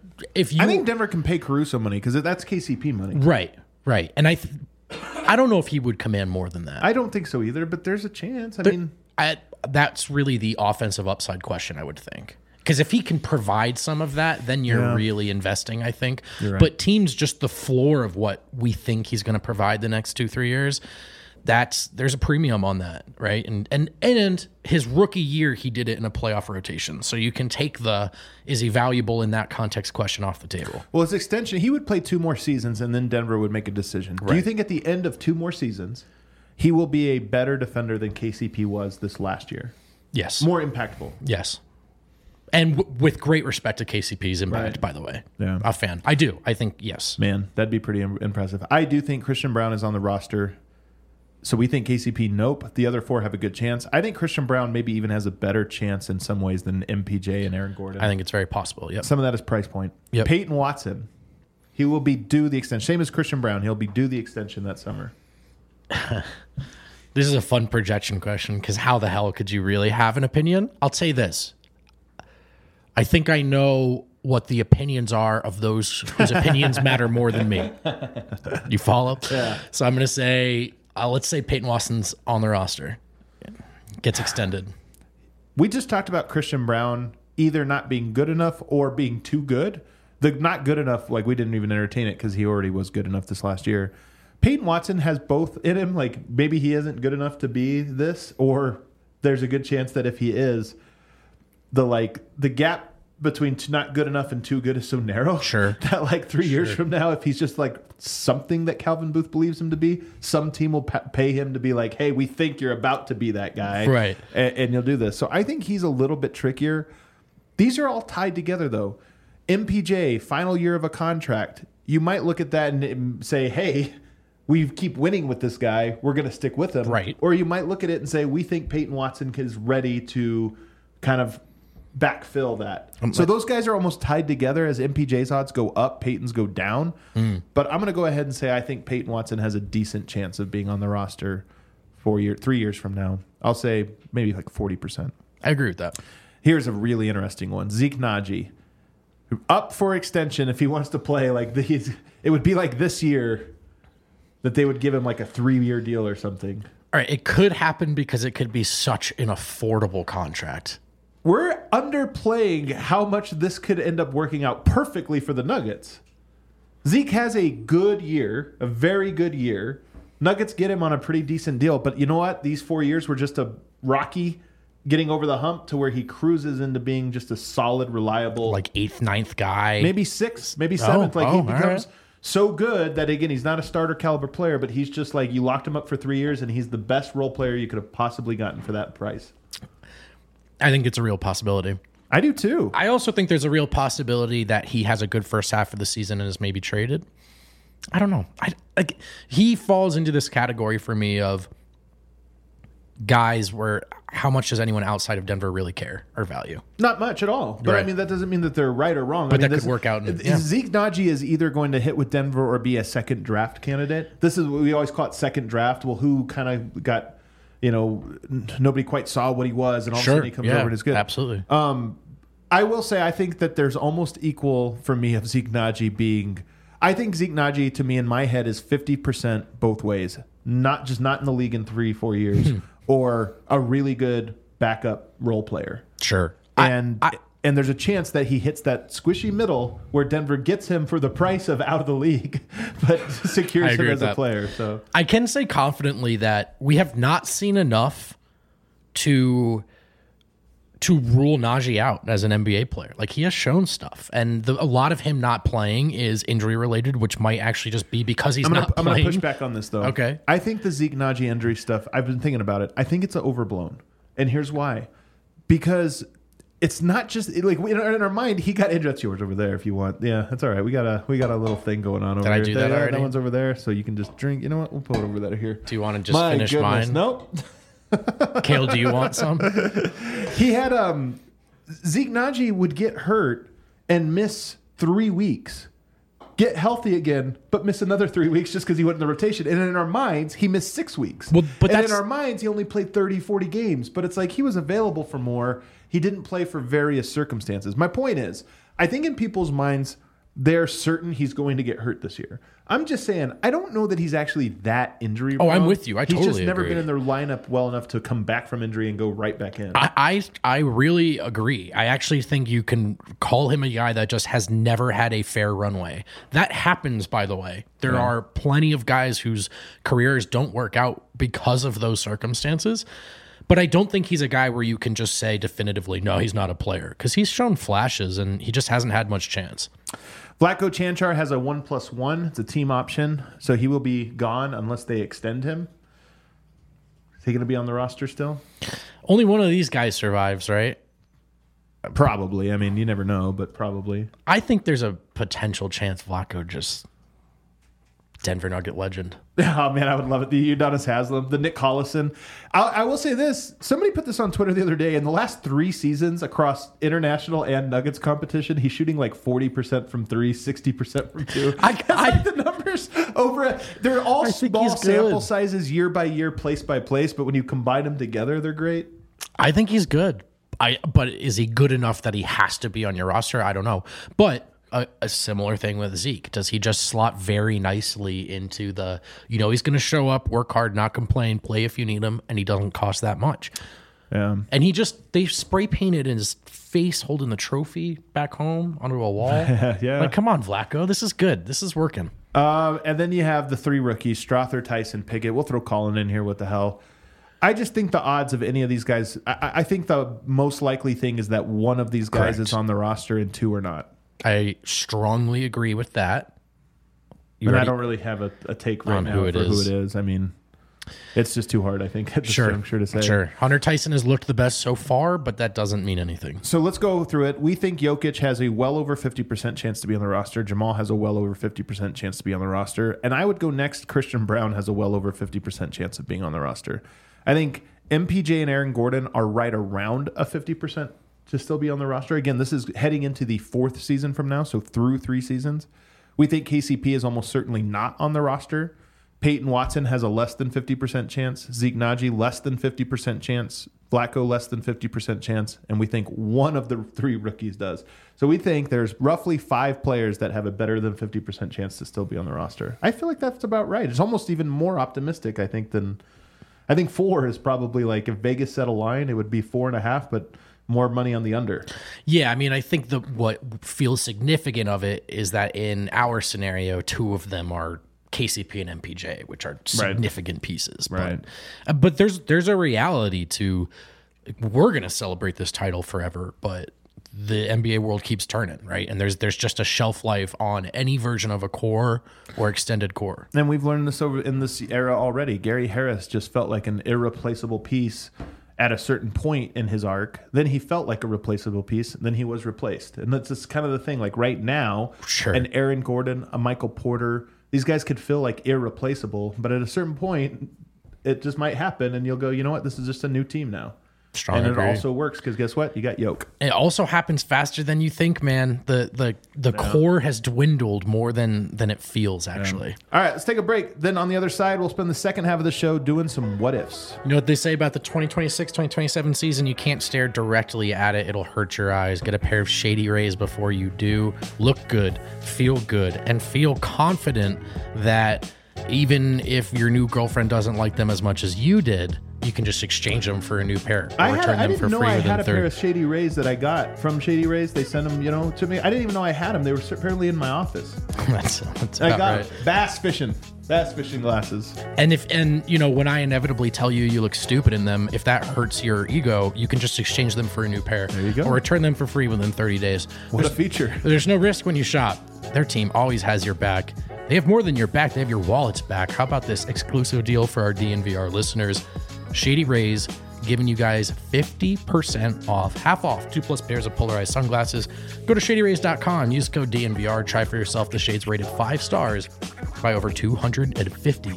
if you. I think Denver can pay Caruso money because that's K C P money. Right, right, and I, th- I don't know if he would command more than that. I don't think so either, but there's a chance. I There- mean, I, that's really the offensive upside question, I would think. Because if he can provide some of that, then you're Yeah. really investing, I think. You're right. But teams, just the floor of what we think he's going to provide the next two, three years, that's there's a premium on that, right? And and and his rookie year, he did it in a playoff rotation. So you can take the is he valuable in that context question off the table. well, his extension, he would play two more seasons, and then Denver would make a decision. Do you Right. think at the end of two more seasons, he will be a better defender than K C P was this last year? Yes. More impactful. Yes. And w- with great respect to K C P's impact, Right. by the way. Yeah. A fan. I do. I think, yes. Man, that'd be pretty im- impressive. I do think Christian Brown is on the roster. So we think K C P, nope. The other four have a good chance. I think Christian Brown maybe even has a better chance in some ways than M P J and Aaron Gordon. I think it's very possible. Yep. Some of that is price point. Yep. Peyton Watson, he will be due the extension. Same as Christian Brown. He'll be due the extension that summer. This is a fun projection question because how the hell could you really have an opinion? I'll say this. I think I know what the opinions are of those whose opinions matter more than me. You follow? Yeah. So I'm going to say, uh, let's say Peyton Watson's on the roster. Gets extended. We just talked about Christian Brown either not being good enough or being too good. The not good enough, like we didn't even entertain it because he already was good enough this last year. Peyton Watson has both in him. Like maybe he isn't good enough to be this, or there's a good chance that if he is, the like the gap between t- not good enough and too good is so narrow. Sure. That like three years from now, if he's just like something that Calvin Booth believes him to be, some team will pa- pay him to be like, hey, we think you're about to be that guy. Right. And, and you'll do this. So I think he's a little bit trickier. These are all tied together though. M P J, final year of a contract. You might look at that and, and say, hey, we keep winning with this guy. We're going to stick with him. Right. Or you might look at it and say, we think Peyton Watson is ready to kind of backfill that. Um, so those guys are almost tied together. As M P J's odds go up, Peyton's go down. Mm. But I'm going to go ahead and say I think Peyton Watson has a decent chance of being on the roster four year, three years from now. I'll say maybe like forty percent. I agree with that. Here's a really interesting one. Zeke Naji, up for extension if he wants to play like these. It would be like this year that they would give him like a three-year deal or something. All right. It could happen because it could be such an affordable contract. We're underplaying how much this could end up working out perfectly for the Nuggets. Zeke has a good year, a very good year. Nuggets get him on a pretty decent deal, but you know what? These four years were just a rocky getting over the hump to where he cruises into being just a solid, reliable, Like eighth, ninth guy. maybe sixth, maybe seventh. like oh, he all becomes right. so good that again, he's not a starter caliber player, but he's just like you locked him up for three years, and he's the best role player you could have possibly gotten for that price. I think it's a real possibility. I do too. I also think there's a real possibility that he has a good first half of the season and is maybe traded. I don't know. I like he falls into this category for me of guys where how much does anyone outside of Denver really care or value? Not much at all. But I Right. mean, that doesn't mean that they're right or wrong. But I mean, that this- could work out in- Zeke yeah. Nnaji is either going to hit with Denver or be a second draft candidate. This is what we always call it, second draft. Well, who kind of got, you know, n- nobody quite saw what he was, and all of a Sure. sudden he comes Yeah, over and is good. absolutely. Um, I will say, I think that there's almost equal for me of Zeke Nnaji being. I think Zeke Nnaji, to me, in my head, is fifty percent both ways. Not just not in the league in three, four years, or a really good backup role player. Sure. And I, and there's a chance that he hits that squishy middle where Denver gets him for the price of out of the league, but I secures him agree as with a that. player. So I can say confidently that we have not seen enough to to rule Najee out as an N B A player. Like he has shown stuff, and the, a lot of him not playing is injury related, which might actually just be because he's I'm gonna, not I'm gonna playing. push back on this though. Okay. I think the Zeke Nnaji injury stuff. I've been thinking about it. I think it's overblown, and here's why: because it's not just like in our, in our mind. He got injured. That's yours over there if you want. Yeah, that's all right. We got a we got a little thing going on over I here. do that yeah, already? That one's over there, so you can just drink. You know what? We'll put it over there here. Do you want to just My finish goodness. mine? Nope. Kale, do you want some? He had um Zeke Nnaji would get hurt and miss three weeks, get healthy again, but miss another three weeks just because he went in the rotation. And in our minds, he missed six weeks. Well, but and that's- in our minds, he only played thirty, forty games. But it's like he was available for more. He didn't play for various circumstances. My point is, I think in people's minds, they're certain he's going to get hurt this year. I'm just saying, I don't know that he's actually that injury Oh, I'm prone. with you. I He's just totally never agree. been in their lineup well enough to come back from injury and go right back in. I, I I really agree. I actually think you can call him a guy that just has never had a fair runway. That happens, by the way. There are plenty of guys whose careers don't work out because of those circumstances. But I don't think he's a guy where you can just say definitively, no, he's not a player, because he's shown flashes and he just hasn't had much chance. Vlatko Chanchar has a one plus one. It's a team option, so he will be gone unless they extend him. Is he going to be on the roster still? Only one of these guys survives, right? Probably. I mean, you never know, but probably. I think there's a potential chance Vlatko just Denver Nugget legend. Oh man, I would love it. The Udonis Haslem, the Nick Collison. I, I will say this: somebody put this on Twitter the other day. In the last three seasons across international and Nuggets competition, he's shooting like forty percent from three, sixty percent from two. I- That's I- like the numbers over. A, they're all I think small he's good. sample sizes, year by year, place by place. But when you combine them together, they're great. I think he's good. I but is he good enough that he has to be on your roster? I don't know. But a, a similar thing with Zeke. Does he just slot very nicely into the, you know, he's going to show up, work hard, not complain, play if you need him, and he doesn't cost that much. Yeah. And he just, they spray painted his face holding the trophy back home onto a wall. Yeah. Like, come on, Vlatko. This is good. This is working. Um, and then you have the three rookies: Strother, Tyson, Pickett. We'll throw Colin in here. What the hell? I just think the odds of any of these guys. I, I think the most likely thing is that one of these guys Correct. is on the roster and two are not. I strongly agree with that. You And I already- don't really have a, a take right On now who it for is. who it is. I mean, it's just too hard. I think at this Sure, juncture to say. sure. Hunter Tyson has looked the best so far, but that doesn't mean anything. So let's go through it. We think Jokic has a well over fifty percent chance to be on the roster. Jamal has a well over fifty percent chance to be on the roster. And I would go next. Christian Brown has a well over fifty percent chance of being on the roster. I think M P J and Aaron Gordon are right around a fifty percent to still be on the roster. Again, this is heading into the fourth season from now, so through three seasons. We think K C P is almost certainly not on the roster. Peyton Watson has a less than fifty percent chance. Zeke Nnaji, less than fifty percent chance. Vlatko, less than fifty percent chance. And we think one of the three rookies does. So we think there's roughly five players that have a better than fifty percent chance to still be on the roster. I feel like that's about right. It's almost even more optimistic, I think, than... I think four is probably like, if Vegas set a line, it would be four and a half, but more money on the under. Yeah, I mean, I think the what feels significant of it is that in our scenario, two of them are K C P and M P J, which are significant pieces. Right. But, uh, but there's there's a reality to we're going to celebrate this title forever, but the N B A world keeps turning, right? And there's there's just a shelf life on any version of a core or extended core. And we've learned this over in this era already. Gary Harris just felt like an irreplaceable piece at a certain point in his arc. Then he felt like a replaceable piece. Then he was replaced. And that's just kind of the thing. Like right now, Sure. an Aaron Gordon, a Michael Porter, these guys could feel like irreplaceable. But at a certain point, it just might happen. And you'll go, you know what? This is just a new team now. Strong and agree. it also works because guess what? You got Yoke. It also happens faster than you think, man. The the the core has dwindled more than than it feels, actually. All right, let's take a break. Then on the other side, we'll spend the second half of the show doing some what ifs. You know what they say about the twenty twenty-six twenty twenty-seven season? You can't stare directly at it. It'll hurt your eyes. Get a pair of Shady Rays before you do. Look good, feel good, and feel confident that even if your new girlfriend doesn't like them as much as you did, you can just exchange them for a new pair or I, had, return I them didn't for know free I within had a thirty. pair of Shady Rays that I got from Shady Rays. They sent them, you know, to me. I didn't even know I had them. They were apparently in my office. that's that's I about got right. them. Bass fishing. Bass fishing glasses. And if and you know when I inevitably tell you you look stupid in them, if that hurts your ego, you can just exchange them for a new pair. There you go. Or return them for free within thirty days. What a feature. There's no risk when you shop. Their team always has your back. They have more than your back. They have your wallet's back. How about this exclusive deal for our D N V R listeners? Shady Rays giving you guys fifty percent off, half off, two plus pairs of polarized sunglasses. Go to shady rays dot com. Use code D N V R. Try for yourself the shades rated five stars by over two hundred fifty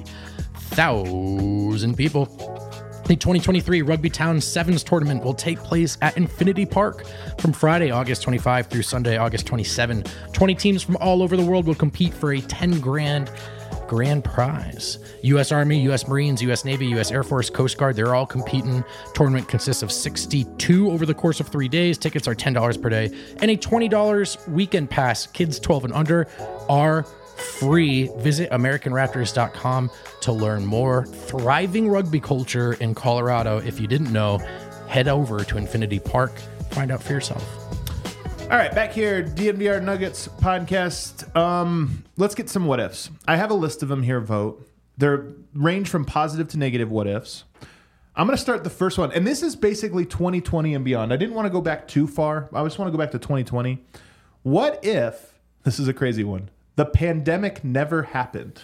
thousand people. The twenty twenty-three Rugby Town Sevens tournament will take place at Infinity Park from Friday, August twenty-fifth through Sunday, August twenty-seventh. twenty teams from all over the world will compete for a ten grand grand prize. U S Army, U S Marines, U S Navy, U S Air Force, Coast Guard, they're all competing. Tournament consists of sixty-two over the course of three days. Tickets are ten dollars per day. And a twenty dollars weekend pass. Kids twelve and under are free. Visit American Raptors dot com to learn more. Thriving rugby culture in Colorado. If you didn't know, head over to Infinity Park. Find out for yourself. All right, back here, D N V R Nuggets podcast. Um, let's get some what ifs. I have a list of them here, vote. They're range from positive to negative what ifs. I'm going to start the first one, and this is basically twenty twenty and beyond. I didn't want to go back too far. I just want to go back to twenty twenty. What if, this is a crazy one, the pandemic never happened?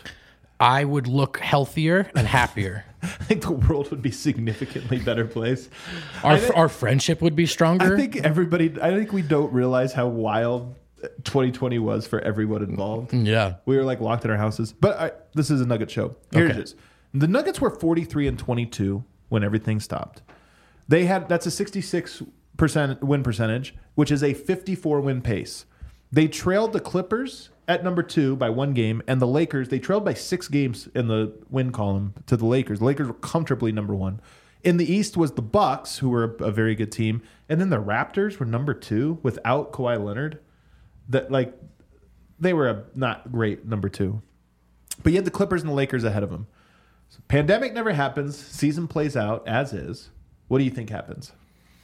I would look healthier and happier. I think the world would be a significantly better place. Our, think- our friendship would be stronger. I think everybody, I think we don't realize how wild twenty twenty was for everyone involved. Yeah. We were like locked in our houses. But I, this is a Nugget show. Here Okay. it is. The Nuggets were forty-three and twenty-two when everything stopped. They had, that's a sixty-six percent win percentage, which is a fifty-four win pace. They trailed the Clippers at number two by one game, and the Lakers, they trailed by six games in the win column to the Lakers. The Lakers were comfortably number one. In the East was the Bucks, who were a, a very good team, and then the Raptors were number two without Kawhi Leonard. That like they were a not great number two, but you had the Clippers and the Lakers ahead of them. So pandemic never happens. Season plays out as is. What do you think happens?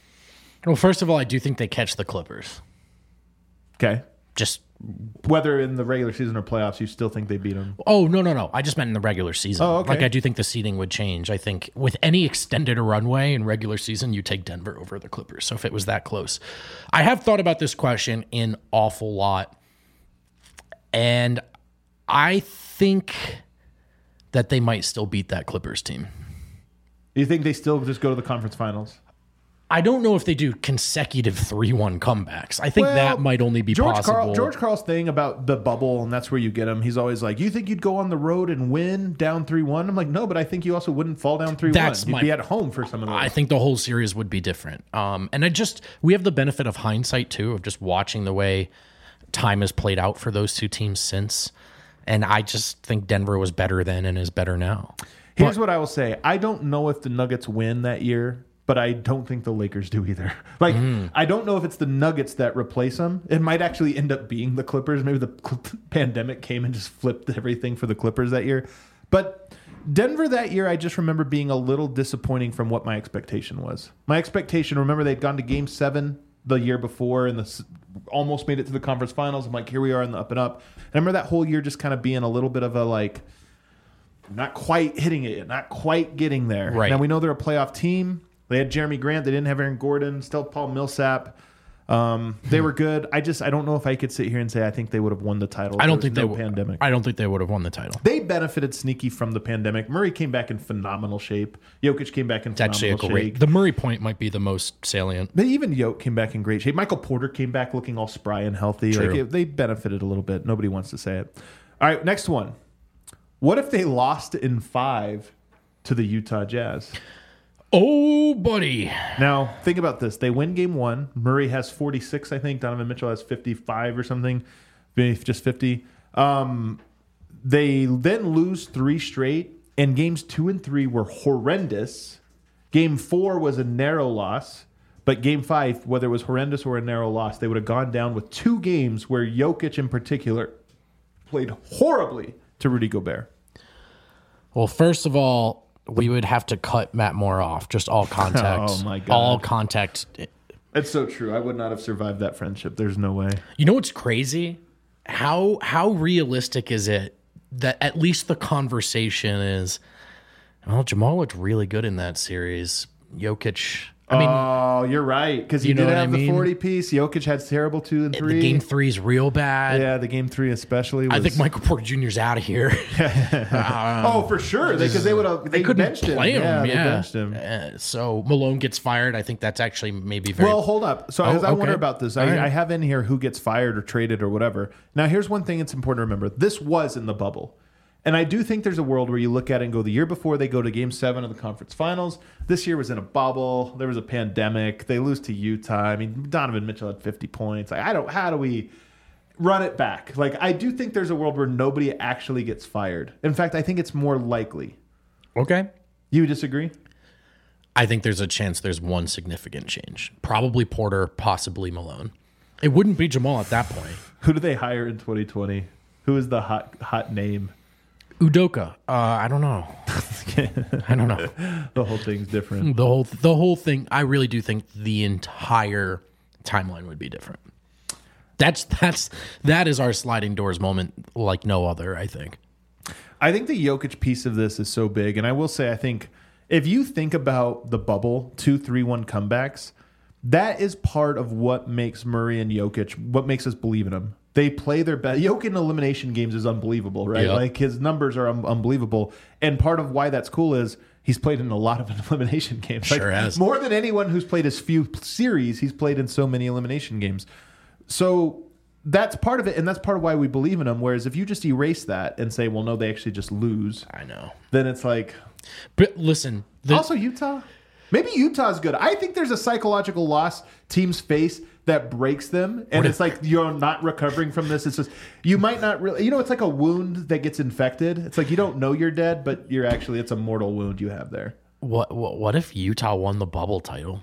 Well, first of all, I do think they catch the Clippers. Okay. Just, Whether in the regular season or playoffs, you still think they beat them? oh, no, no, no. I just meant in the regular season. Oh, okay. Like, I do think the seeding would change. I think with any extended runway in regular season, you take Denver over the Clippers. So if it was that close. I have thought about this question an awful lot. And I think that they might still beat that Clippers team. You think they still just go to the conference finals? I don't know if they do consecutive three one comebacks. I think Well, that might only be George possible. Carl, George Carl's thing about the bubble, and that's where you get him. He's always like, you think you'd go on the road and win down three one? I'm like, no, but I think you also wouldn't fall down three one. That's You'd my- be at home for some of those. I think the whole series would be different. Um, and I just, we have the benefit of hindsight too, of just watching the way time has played out for those two teams since. And I just think Denver was better then and is better now. Here's what I will say. I don't know if the Nuggets win that year, but I don't think the Lakers do either. Like, Mm. I don't know if it's the Nuggets that replace them. It might actually end up being the Clippers. Maybe the cl- pandemic came and just flipped everything for the Clippers that year. But Denver that year, I just remember being a little disappointing from what my expectation was. My expectation, remember they'd gone to game seven the year before and the, s- almost made it to the conference finals. I'm like, here we are in the up and up. And I remember that whole year just kind of being a little bit of a like, not quite hitting it, not quite getting there. Right. Now we know they're a playoff team. They had Jeremy Grant. They didn't have Aaron Gordon. Still Paul Millsap. Um, they were good. I just I don't know if I could sit here and say I think they would have won the title. I don't There think was they no would. pandemic. I don't think they would have won the title. They benefited sneaky from the pandemic. Murray came back in phenomenal shape. Jokic came back in It's actually phenomenal a great. shape. The Murray point might be the most salient. But even Yoke came back in great shape. Michael Porter came back looking all spry and healthy. True. Like it, they benefited a little bit. Nobody wants to say it. All right, next one. What if they lost in five to the Utah Jazz? Oh, buddy. Now, think about this. They win game one. Murray has forty-six, I think. Donovan Mitchell has fifty-five or something. Maybe just fifty. Um, they then lose three straight, and games two and three were horrendous. Game four was a narrow loss, but game five, whether it was horrendous or a narrow loss, they would have gone down with two games where Jokic in particular played horribly to Rudy Gobert. Well, first of all, we would have to cut Matt Moore off. Just all contact. Oh, my God. All contact. It's so true. I would not have survived that friendship. There's no way. You know what's crazy? How how realistic is it that at least the conversation is, well, Jamal looked really good in that series. Jokic. I mean, oh, you're right. Because he you know did what have I the mean? forty piece. Jokic had terrible two and three. the game three's real bad. Yeah, the game three especially. Was, I think Michael Porter Junior's out of here. oh, for sure. Because they would have. They, They couldn't benched play him. Yeah, Yeah. they benched him. Uh, so Malone gets fired. I think that's actually maybe very. Well, hold up. So Oh, as I wonder okay. about this, All I, right. I have in here who gets fired or traded or whatever. Now, here's one thing it's important to remember. This was in the bubble. And I do think there's a world where you look at it and go, the year before they go to game seven of the conference finals, this year was in a bubble. There was a pandemic. They lose to Utah. I mean, Donovan Mitchell had fifty points. Like, I don't, how do we run it back? Like, I do think there's a world where nobody actually gets fired. In fact, I think it's more likely. Okay. You disagree? I think there's a chance there's one significant change. Probably Porter, possibly Malone. It wouldn't be Jamal at that point. Who do they hire in twenty twenty? Who is the hot hot name? Udoka. Uh, I don't know. I don't know. The whole thing's different. The whole the whole thing. I really do think the entire timeline would be different. That's that's that is our sliding doors moment like no other. I think. I think the Jokic piece of this is so big, and I will say, I think if you think about the bubble two, three, one comebacks, that is part of what makes Murray and Jokic, what makes us believe in them. They play their best. Jokic in elimination games is unbelievable, right? Yep. Like his numbers are un- unbelievable, and part of why that's cool is he's played in a lot of elimination games. Sure like, has. More than anyone who's played as few series, he's played in so many elimination games. So that's part of it, and that's part of why we believe in him. Whereas if you just erase that and say, well, no, they actually just lose, I know. then it's like, But listen. The, also Utah. Maybe Utah's good. I think there's a psychological loss teams face that breaks them, and it's like you're not recovering from this. It's just you might not really, you know, it's like a wound that gets infected. It's like you don't know you're dead, but you're actually it's a mortal wound you have there. what, what what if Utah won the bubble title?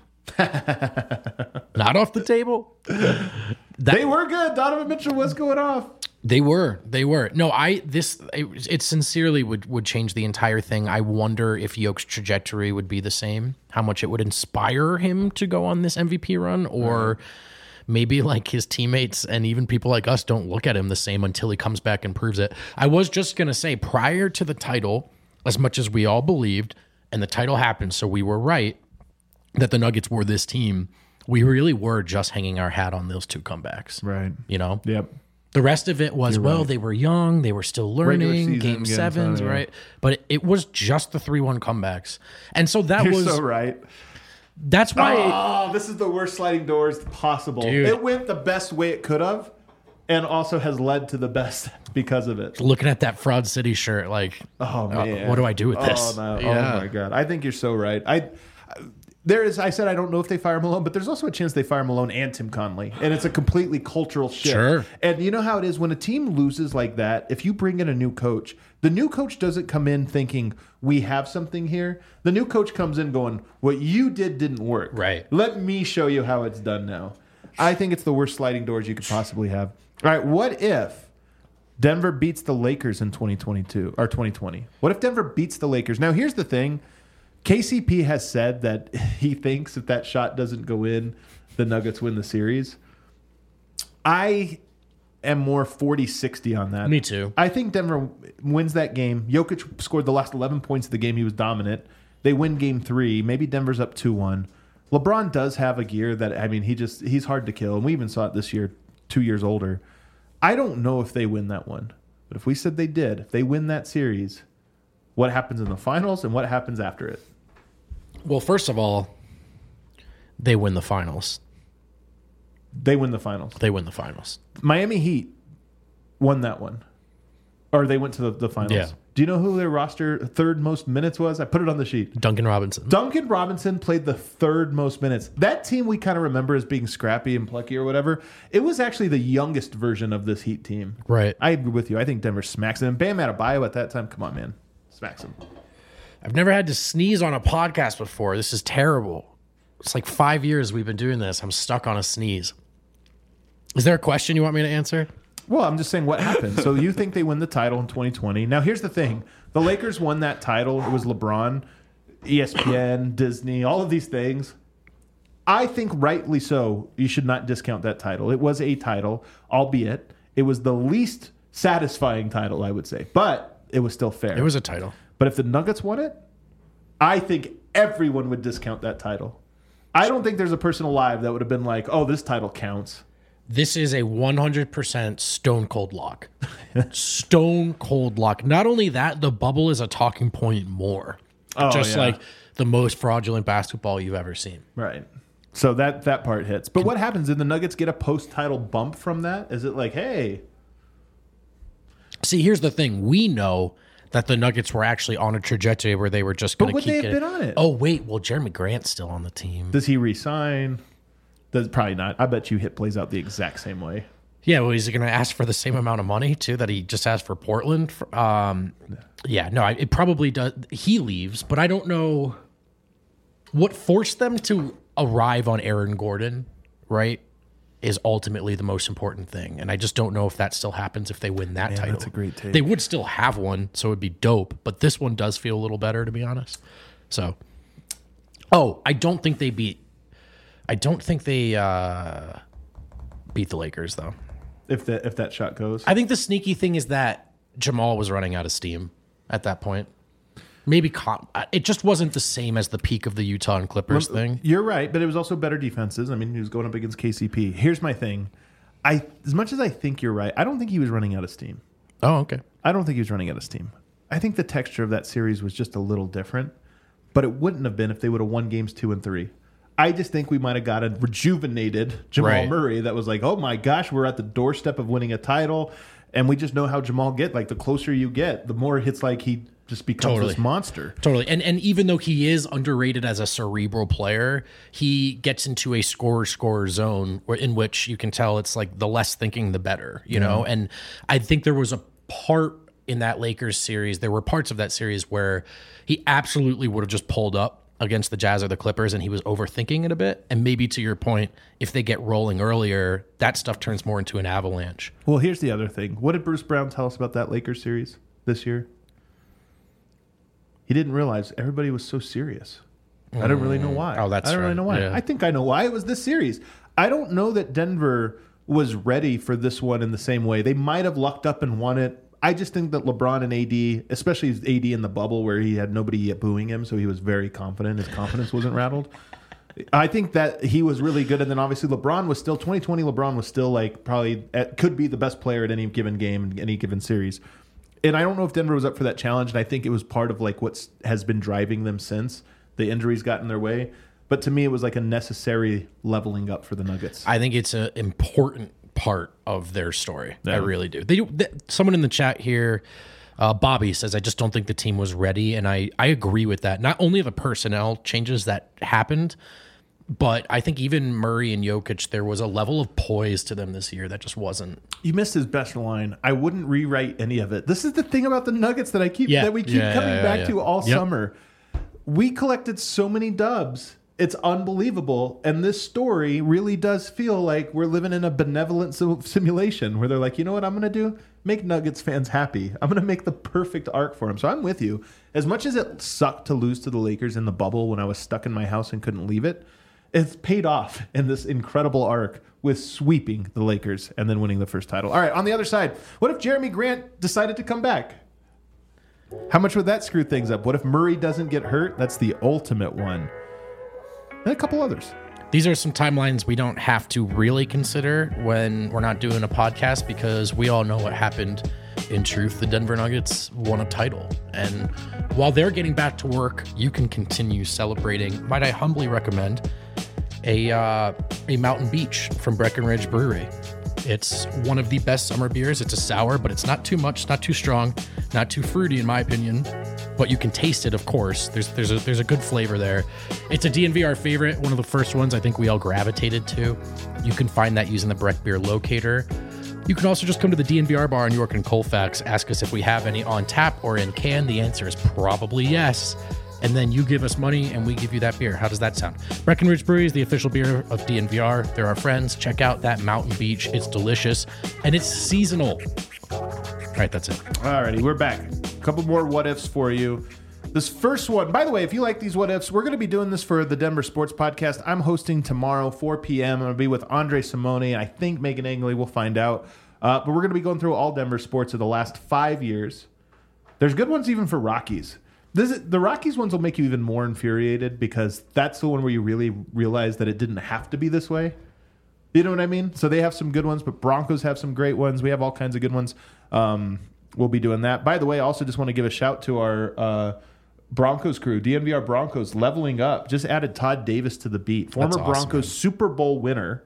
Not off the table. That, They were good. Donovan Mitchell was going off. They were. They were. No, I this it, it sincerely would would change the entire thing. I wonder if Yoke's trajectory would be the same. How much it would inspire him to go on this M V P run, or right. maybe like his teammates and even people like us don't look at him the same until he comes back and proves it. I was just gonna say, prior to the title, as much as we all believed, and the title happened, so we were right that the Nuggets were this team. We really were just hanging our hat on those two comebacks, Right. You know. Yep. The rest of it was, You're well, right. they were young, they were still Regular learning, season, game getting sevens, started, yeah. right? But it, it was just the three one comebacks. And so that You're was, so right. that's why, Oh, this is the worst sliding doors possible. Dude. It went the best way it could have, and also has led to the best because of it. looking at that Fraud City shirt, like, Oh uh, man, what do I do with this? Oh, no. Yeah. Oh my god, I think you're so right. I there is. I said I don't know if they fire Malone, but there's also a chance they fire Malone and Tim Conley, and it's a completely cultural shift. Sure. And you know how it is when a team loses like that. If you bring in a new coach, the new coach doesn't come in thinking we have something here. The new coach comes in going, "What you did didn't work. Right. Let me show you how it's done now." I think it's the worst sliding doors you could possibly have. All right, what if Denver beats the Lakers in twenty twenty-two or twenty twenty? What if Denver beats the Lakers? Now, here's the thing. K C P has said that he thinks if that shot doesn't go in, the Nuggets win the series. I am more forty sixty on that. Me too. I think Denver wins that game. Jokic scored the last eleven points of the game. He was dominant. They win game three. Maybe Denver's up two one. LeBron does have a gear that, I mean, he just he's hard to kill. And we even saw it this year, two years older. I don't know if they win that one. But if we said they did, if they win that series, what happens in the finals and what happens after it? Well, first of all, they win the finals. They win the finals. They win the finals. Miami Heat won that one. Or they went to the, the finals. Yeah. Do you know who their roster third most minutes was? I put it on the sheet. Duncan Robinson. Duncan Robinson played the third most minutes. That team we kind of remember as being scrappy and plucky or whatever. It was actually the youngest version of this Heat team. Right. I agree with you. I think Denver smacks them. Bam Adebayo at that time, come on, man. Smacks them. I've never had to sneeze on a podcast before. This is terrible. It's like five years we've been doing this. I'm stuck on a sneeze. Is there a question you want me to answer? Well, I'm just saying what happened. So you think they win the title in twenty twenty. Now, here's the thing. The Lakers won that title. It was LeBron, E S P N, Disney, all of these things. I think rightly so, you should not discount that title. It was a title, albeit it was the least satisfying title, I would say. But it was still fair. It was a title. But if the Nuggets won it, I think everyone would discount that title. I don't think there's a person alive that would have been like, oh, this title counts. This is a one hundred percent stone cold lock. Stone cold lock. Not only that, the bubble is a talking point more. Oh, Just yeah. like the most fraudulent basketball you've ever seen. Right. So that, that part hits. But what happens? Did the Nuggets get a post-title bump from that? Is it like, hey... See, here's the thing. We know that the Nuggets were actually on a trajectory where they were just going But to would keep they have getting... been on it? Oh, wait. Well, Jeremy Grant's still on the team. Does he resign? Does Probably not. I bet you Hit plays out the exact same way. Yeah, well, is he going to ask for the same amount of money, too, that he just asked for Portland? Um, yeah, no, it probably does. He leaves, but I don't know what forced them to arrive on Aaron Gordon, right, is ultimately the most important thing. And I just don't know if that still happens if they win that Man, title. that's a great take. They would still have one, so it would be dope, but this one does feel a little better, to be honest. So, oh, I don't think they beat, I don't think they uh, beat the Lakers, though. If that if that shot goes. I think the sneaky thing is that Jamal was running out of steam at that point. Maybe Com- it just wasn't the same as the peak of the Utah and Clippers thing. You're right, but it was also better defenses. I mean, he was going up against K C P. Here's my thing. I as much as I think you're right, I don't think he was running out of steam. Oh, okay. I don't think he was running out of steam. I think the texture of that series was just a little different, but it wouldn't have been if they would have won games two and three. I just think we might have got a rejuvenated Jamal Right. Murray that was like, oh my gosh, we're at the doorstep of winning a title. And we just know how Jamal get. Like, the closer you get, the more it's like he just becomes Totally. this monster. Totally. And and even though he is underrated as a cerebral player, he gets into a scorer-scorer zone where, in which you can tell it's like the less thinking, the better, you know? And I think there was a part in that Lakers series, there were parts of that series where he absolutely would have just pulled up against the Jazz or the Clippers and he was overthinking it a bit. And maybe to your point, if they get rolling earlier, that stuff turns more into an avalanche. Well, here's the other thing. What did Bruce Brown tell us about that Lakers series this year? He didn't realize everybody was so serious. I don't really know why. Oh, that's I don't really right. know why. Yeah. I think I know why. It was this series. I don't know that Denver was ready for this one in the same way. They might have lucked up and won it. I just think that LeBron and A D, especially A D in the bubble where he had nobody yet booing him, so he was very confident. His confidence wasn't rattled. I think that he was really good. And then obviously LeBron was still, twenty twenty LeBron was still like probably, at, could be the best player at any given game, in any given series. And I don't know if Denver was up for that challenge. And I think it was part of like what has been driving them since the injuries got in their way. But to me, it was like a necessary leveling up for the Nuggets. I think it's an important part of their story. Yeah. I really do. They, they, someone in the chat here, uh, Bobby, says, I just don't think the team was ready. And I, I agree with that. Not only the personnel changes that happened, but I think even Murray and Jokic, there was a level of poise to them this year that just wasn't. You missed his best line. I wouldn't rewrite any of it. This is the thing about the Nuggets that I keep Yeah. that we keep Yeah, coming yeah, back yeah. to all Yep. summer. We collected so many dubs. It's unbelievable. And this story really does feel like we're living in a benevolent sim- simulation where they're like, you know what I'm going to do? Make Nuggets fans happy. I'm going to make the perfect arc for them. So I'm with you. As much as it sucked to lose to the Lakers in the bubble when I was stuck in my house and couldn't leave it, it's paid off in this incredible arc with sweeping the Lakers and then winning the first title. All right, on the other side, what if Jeremy Grant decided to come back? How much would that screw things up? What if Murray doesn't get hurt? That's the ultimate one. And a couple others. These are some timelines we don't have to really consider when we're not doing a podcast because we all know what happened. In truth, the Denver Nuggets won a title. And while they're getting back to work, you can continue celebrating. Might I humbly recommend a uh, a Mountain Beach from Breckenridge Brewery. It's one of the best summer beers. It's a sour, but it's not too much, not too strong, not too fruity in my opinion. But you can taste it, of course. There's there's a there's a good flavor there. It's a D N V R favorite, one of the first ones I think we all gravitated to. You can find that using the Breck Beer Locator. You can also just come to the D N V R bar in York and Colfax, ask us if we have any on tap or in can. The answer is probably yes. And then you give us money and we give you that beer. How does that sound? Breckenridge Brewery is the official beer of D N V R. They're our friends. Check out that Mountain Beach. It's delicious and it's seasonal. All right, that's it. Alrighty, we're back. A couple more what ifs for you. This first one, by the way, if you like these what ifs, we're going to be doing this for the Denver Sports Podcast. I'm hosting tomorrow, four p.m. I'm going to be with Andre Simone. I think Megan Angley. We'll find out. Uh, but we're going to be going through all Denver sports of the last five years. There's good ones even for Rockies. This is, the Rockies ones will make you even more infuriated because that's the one where you really realize that it didn't have to be this way. You know what I mean? So they have some good ones, but Broncos have some great ones. We have all kinds of good ones. Um, we'll be doing that. By the way, I also just want to give a shout to our uh, Broncos crew, D N V R Broncos, leveling up. Just added Todd Davis to the beat. Former That's awesome, Broncos man. Super Bowl winner.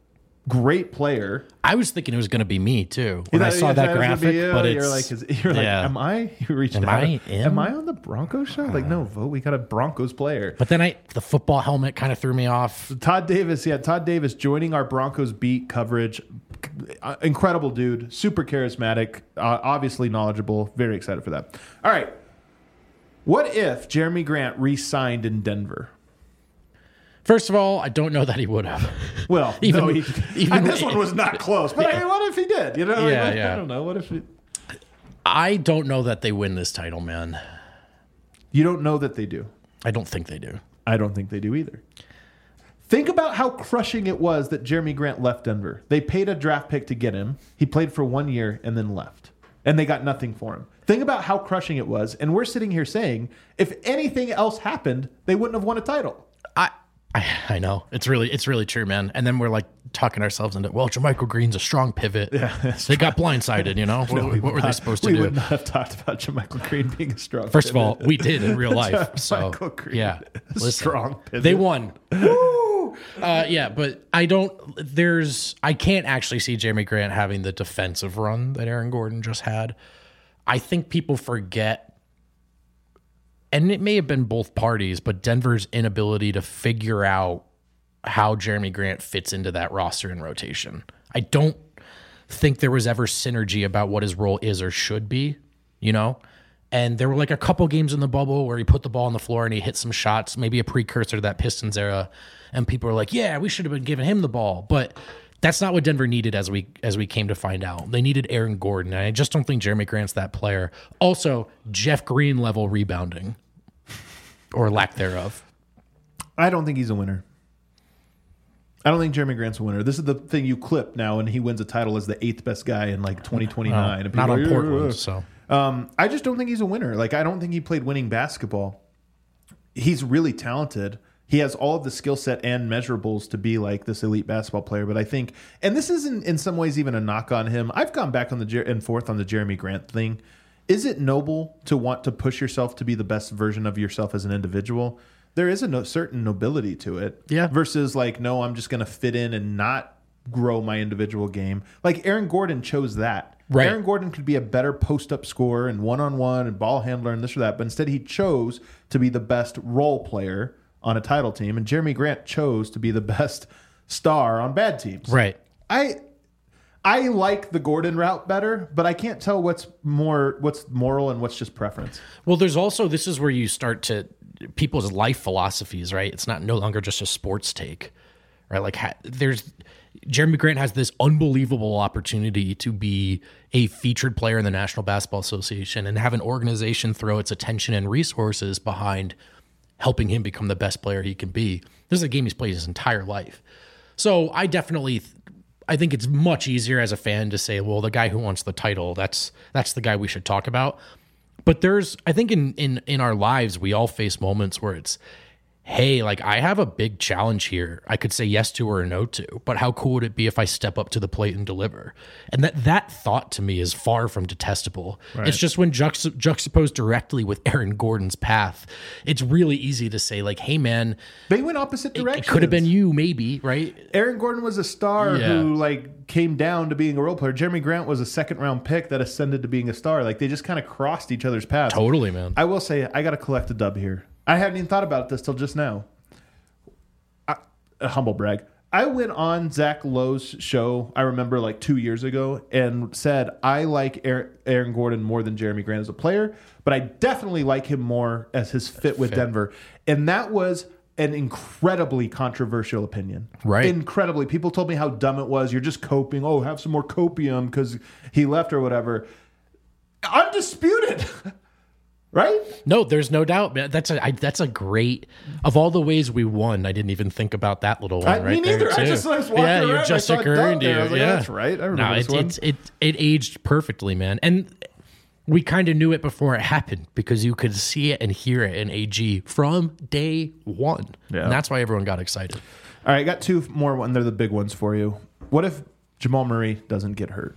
Great player. I was thinking it was going to be me too when You I know, saw you that thought it was gonna graphic. be you, But you're it's like, is, you're like, yeah. am I? You reached Am out. I him? Am I on the Broncos show? Like, no, vote. We got a Broncos player. But then I the football helmet kind of threw me off. Todd Davis, yeah, Todd Davis joining our Broncos beat coverage. Uh, incredible dude, super charismatic, uh, obviously knowledgeable. Very excited for that. All right. What if Jeremy Grant re-signed in Denver? First of all, I don't know that he would have. Well, Even- no, he, even- this one was not close. But I mean, what if he did? You know, like, Yeah, what- yeah. I don't know. What if he, I don't know that they win this title, man. you don't know that they do? I don't think they do. I don't think they do either. Think about how crushing it was that Jeremy Grant left Denver. They paid a draft pick to get him. He played for one year and then left. And they got nothing for him. Think about how crushing it was. And we're sitting here saying, if anything else happened, they wouldn't have won a title. I, I I know it's really it's really true, man. And then we're like talking ourselves into well, Jermichael Green's a strong pivot. Yeah, they got blindsided. You know what, what were they supposed to we do? would not have talked about Jermichael Green being a strong. First pivot. of all, we did in real life. So Jermichael Green, yeah, a listen, strong pivot. they won. Woo! Uh, yeah, but I don't. There's I can't actually see Jeremy Grant having the defensive run that Aaron Gordon just had. I think people forget, and it may have been both parties, but Denver's inability to figure out how Jeremy Grant fits into that roster and rotation. I don't think there was ever synergy about what his role is or should be, you know? And there were like a couple games in the bubble where he put the ball on the floor and he hit some shots, maybe a precursor to that Pistons era. And people were like, yeah, we should have been giving him the ball. But that's not what Denver needed as we as we came to find out. They needed Aaron Gordon. And I just don't think Jeremy Grant's that player. Also, Jeff Green level rebounding or lack thereof. I don't think he's a winner. I don't think Jeremy Grant's a winner. This is the thing you clip now, and he wins a title as the eighth best guy in like twenty twenty-nine. Well, And not people on are, "Yeah, Portland, yeah, yeah." so. Um, I just don't think he's a winner. Like, I don't think he played winning basketball. He's really talented. He has all of the skill set and measurables to be like this elite basketball player. But I think, and this isn't in some ways even a knock on him. I've gone back on the Jer- and forth on the Jeremy Grant thing. Is it noble to want to push yourself to be the best version of yourself as an individual? There is a no, certain nobility to it. Yeah. Versus like, no, I'm just going to fit in and not grow my individual game. Like Aaron Gordon chose that. Right. Aaron Gordon could be a better post-up scorer and one-on-one and ball handler and this or that, but instead he chose to be the best role player on a title team, and Jeremy Grant chose to be the best star on bad teams. Right. I I like the Gordon route better, but I can't tell what's more what's moral and what's just preference. Well, there's also, this is where you start to, people's life philosophies, right? It's not no longer just a sports take, right? Like ha, there's, Jeremy Grant has this unbelievable opportunity to be a featured player in the National Basketball Association and have an organization throw its attention and resources behind helping him become the best player he can be. This is a game he's played his entire life. So I definitely, I think it's much easier as a fan to say, well, the guy who wants the title, that's that's the guy we should talk about. But there's, I think in, in, in our lives, we all face moments where it's, hey, like I have a big challenge here. I could say yes to or no to, but how cool would it be if I step up to the plate and deliver? And that that thought to me is far from detestable. Right. It's just when juxta- juxtaposed directly with Aaron Gordon's path, it's really easy to say like, hey man, They went opposite it, directions. it could have been you maybe, right? Aaron Gordon was a star Yeah. who like came down to being a role player. Jeremy Grant was a second round pick that ascended to being a star. Like they just kind of crossed each other's paths. Totally, man. I will say I got to collect a dub here. I hadn't even thought about this till just now. I, a humble brag. I went on Zach Lowe's show, I remember like two years ago, and said I like Aaron, Aaron Gordon more than Jeremy Grant as a player, but I definitely like him more as his fit with Fit. Denver. And that was an incredibly controversial opinion. Right. Incredibly. People told me how dumb it was. You're just coping. Oh, have some more copium because he left or whatever. Undisputed. Right? No, there's no doubt, man. That's a I, that's a great of all the ways we won. I didn't even think about that little one I- right me neither. there I too. just- I was walking yeah, around, it I just saw it occurred down to there. you. I was like, yeah, "Oh, that's right. I remember no, this it, one." It's, it it aged perfectly, man. And we kind of knew it before it happened because you could see it and hear it in A G from day one. Yeah. And that's why everyone got excited. All right, I got two more, and they're the big ones for you. What if Jamal Murray doesn't get hurt?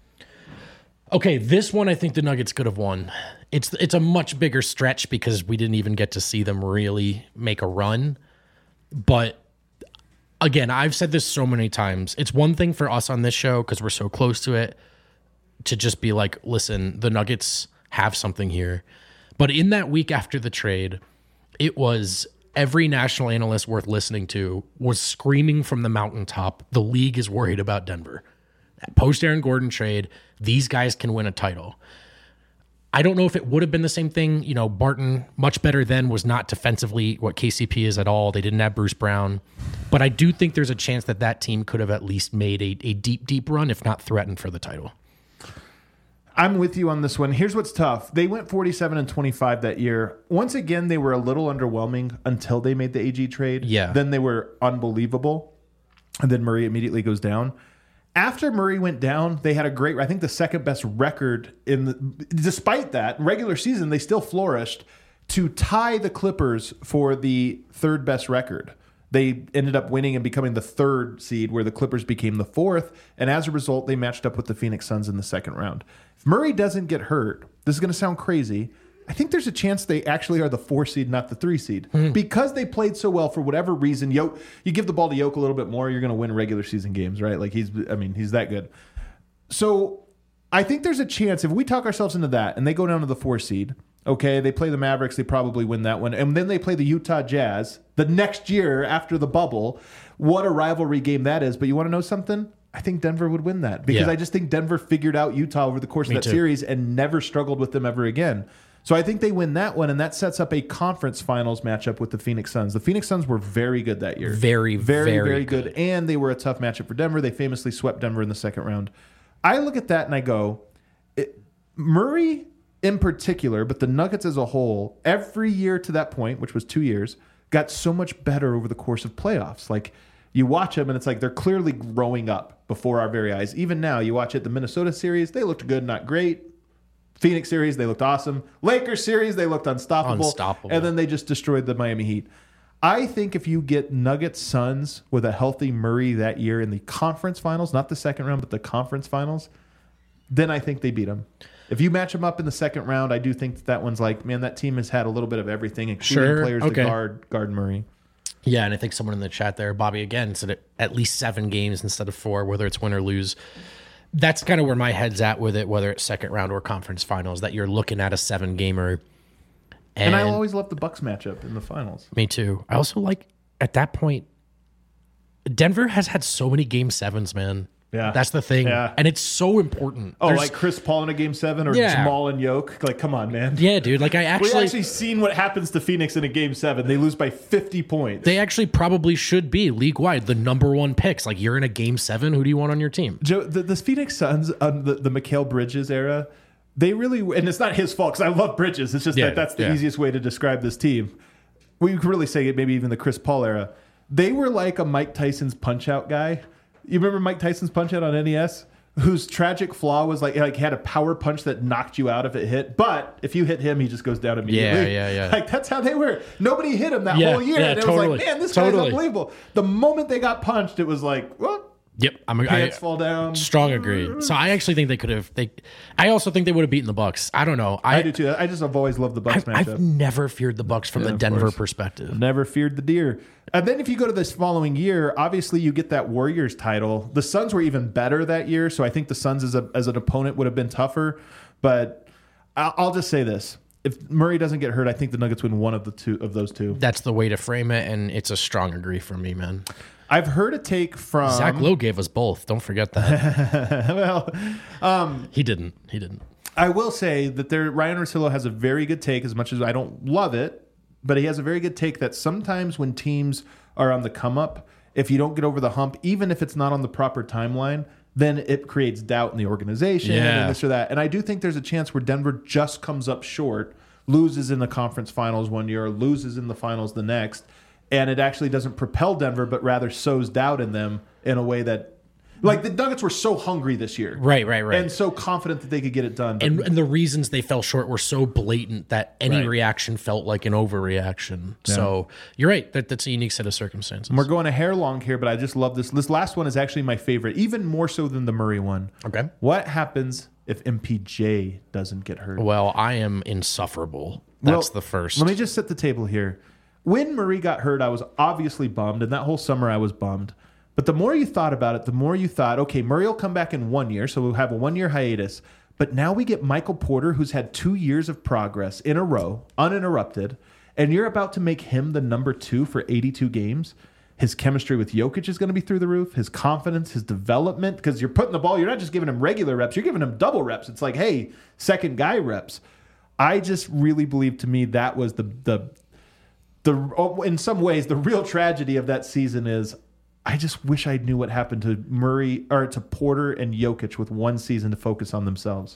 Okay, this one I think the Nuggets could have won. It's it's a much bigger stretch because we didn't even get to see them really make a run. But again, I've said this so many times. It's one thing for us on this show because we're so close to it to just be like, listen, the Nuggets have something here. But in that week after the trade, it was every national analyst worth listening to was screaming from the mountaintop, the league is worried about Denver. Post Aaron Gordon trade, these guys can win a title. I don't know if it would have been the same thing. You know, Barton, much better then, was not defensively what K C P is at all. They didn't have Bruce Brown. But I do think there's a chance that that team could have at least made a, a deep, deep run, if not threatened for the title. I'm with you on this one. Here's what's tough. They went forty-seven and twenty-five that year. Once again, they were a little underwhelming until they made the A G trade. Yeah. Then they were unbelievable. And then Murray immediately goes down. After Murray went down, they had a great, I think the second best record in the, despite that, regular season, they still flourished to tie the Clippers for the third best record. They ended up winning and becoming the third seed where the Clippers became the fourth. And as a result, they matched up with the Phoenix Suns in the second round. If Murray doesn't get hurt, this is going to sound crazy, I think there's a chance they actually are the four seed, not the three seed. Hmm. Because they played so well for whatever reason. Yo, you give the ball to Yoke a little bit more, you're going to win regular season games, right? Like he's, I mean, he's that good. So I think there's a chance if we talk ourselves into that and they go down to the four seed, okay, they play the Mavericks, they probably win that one. And then they play the Utah Jazz the next year after the bubble. What a rivalry game that is. But you want to know something? I think Denver would win that because Yeah. I just think Denver figured out Utah over the course Me of that too. series and never struggled with them ever again. So I think they win that one, and that sets up a conference finals matchup with the Phoenix Suns. The Phoenix Suns were very good that year. Very, very, very very good. good. And they were a tough matchup for Denver. They famously swept Denver in the second round. I look at that and I go, it, Murray in particular, but the Nuggets as a whole, every year to that point, which was two years, got so much better over the course of playoffs. Like, you watch them and it's like they're clearly growing up before our very eyes. Even now, you watch it, the Minnesota series, they looked good, not great. Phoenix series, they looked awesome. Lakers series, they looked unstoppable. Unstoppable. And then they just destroyed the Miami Heat. I think if you get Nuggets Suns with a healthy Murray that year in the conference finals, not the second round, but the conference finals, then I think they beat them. If you match them up in the second round, I do think that, that one's like, man, that team has had a little bit of everything, including Sure, players okay. to guard guard Murray. Yeah, and I think someone in the chat there, Bobby, again, said it, at least seven games instead of four, whether it's win or lose. That's kind of where my head's at with it, whether it's second round or conference finals, that you're looking at a seven gamer. And, and I always love the Bucks matchup in the finals. Me too. I also like, at that point, Denver has had so many game sevens, man. Yeah. That's the thing. Yeah. And it's so important. Oh, There's- like Chris Paul in a game seven or Yeah. Jamal and Yoke? Like, come on, man. yeah, dude. Like, I We actually, actually seen what happens to Phoenix in a game seven. They lose by fifty points. they actually probably should be league wide the number one picks. Like, you're in a game seven. Who do you want on your team? Joe, the, the Phoenix Suns, um, the, the Mikal Bridges era, they really, and it's not his fault because I love Bridges. It's just Yeah, that that's the yeah. easiest way to describe this team. We could really say it, maybe even the Chris Paul era. They were like a Mike Tyson's punch out guy. You remember Mike Tyson's punch out on N E S? whose tragic flaw was like like had a power punch that knocked you out if it hit, but if you hit him, he just goes down immediately. Yeah, yeah, yeah. Like that's how they were. Nobody hit him that Yeah, whole year, yeah, and it totally. was like, man, this Totally. guy's unbelievable. The moment they got punched, it was like, what? Yep, I'm I, Pants fall down. strong agree. So I actually think they could have. They, I also think they would have beaten the Bucks. I don't know. I, I do too. I just have always loved the Bucks I've, matchup. I've never feared the Bucks from Yeah, the of Denver course. perspective. Never feared the deer. And then if you go to this following year, obviously you get that Warriors title. The Suns were even better that year, so I think the Suns as a as an opponent would have been tougher. But I'll, I'll just say this: if Murray doesn't get hurt, I think the Nuggets win one of the two of those two. That's the way to frame it, and it's a strong agree from me, man. I've heard a take from Zach Lowe gave us both. Don't forget that. well, um, he didn't. He didn't. I will say that there Ryan Russillo has a very good take, as much as I don't love it, but he has a very good take that sometimes when teams are on the come up, if you don't get over the hump, even if it's not on the proper timeline, then it creates doubt in the organization Yeah. and this or that. And I do think there's a chance where Denver just comes up short, loses in the conference finals one year, loses in the finals the next, and it actually doesn't propel Denver, but rather sows doubt in them in a way that, like the Nuggets were so hungry this year. Right, right, right. And so confident that they could get it done. But And, and the reasons they fell short were so blatant that any Right. reaction felt like an overreaction. So you're right. That, that's a unique set of circumstances. we're going a hair long here, but I just love this. This last one is actually my favorite, even more so than the Murray one. Okay. What happens if M P J doesn't get hurt? Well, I am insufferable. That's Well, the first. Let me just set the table here. When Murray got hurt, I was obviously bummed, and that whole summer I was bummed. But the more you thought about it, the more you thought, okay, Murray will come back in one year, so we'll have a one-year hiatus. But now we get Michael Porter, who's had two years of progress in a row, uninterrupted, and you're about to make him the number two for eighty-two games. His chemistry with Jokic is going to be through the roof. His confidence, his development, because you're putting the ball, you're not just giving him regular reps, you're giving him double reps. It's like, hey, second guy reps. I just really believe, to me, that was the the the in some ways the real tragedy of that season is I just wish I knew what happened to Murray or to Porter and Jokic with one season to focus on themselves.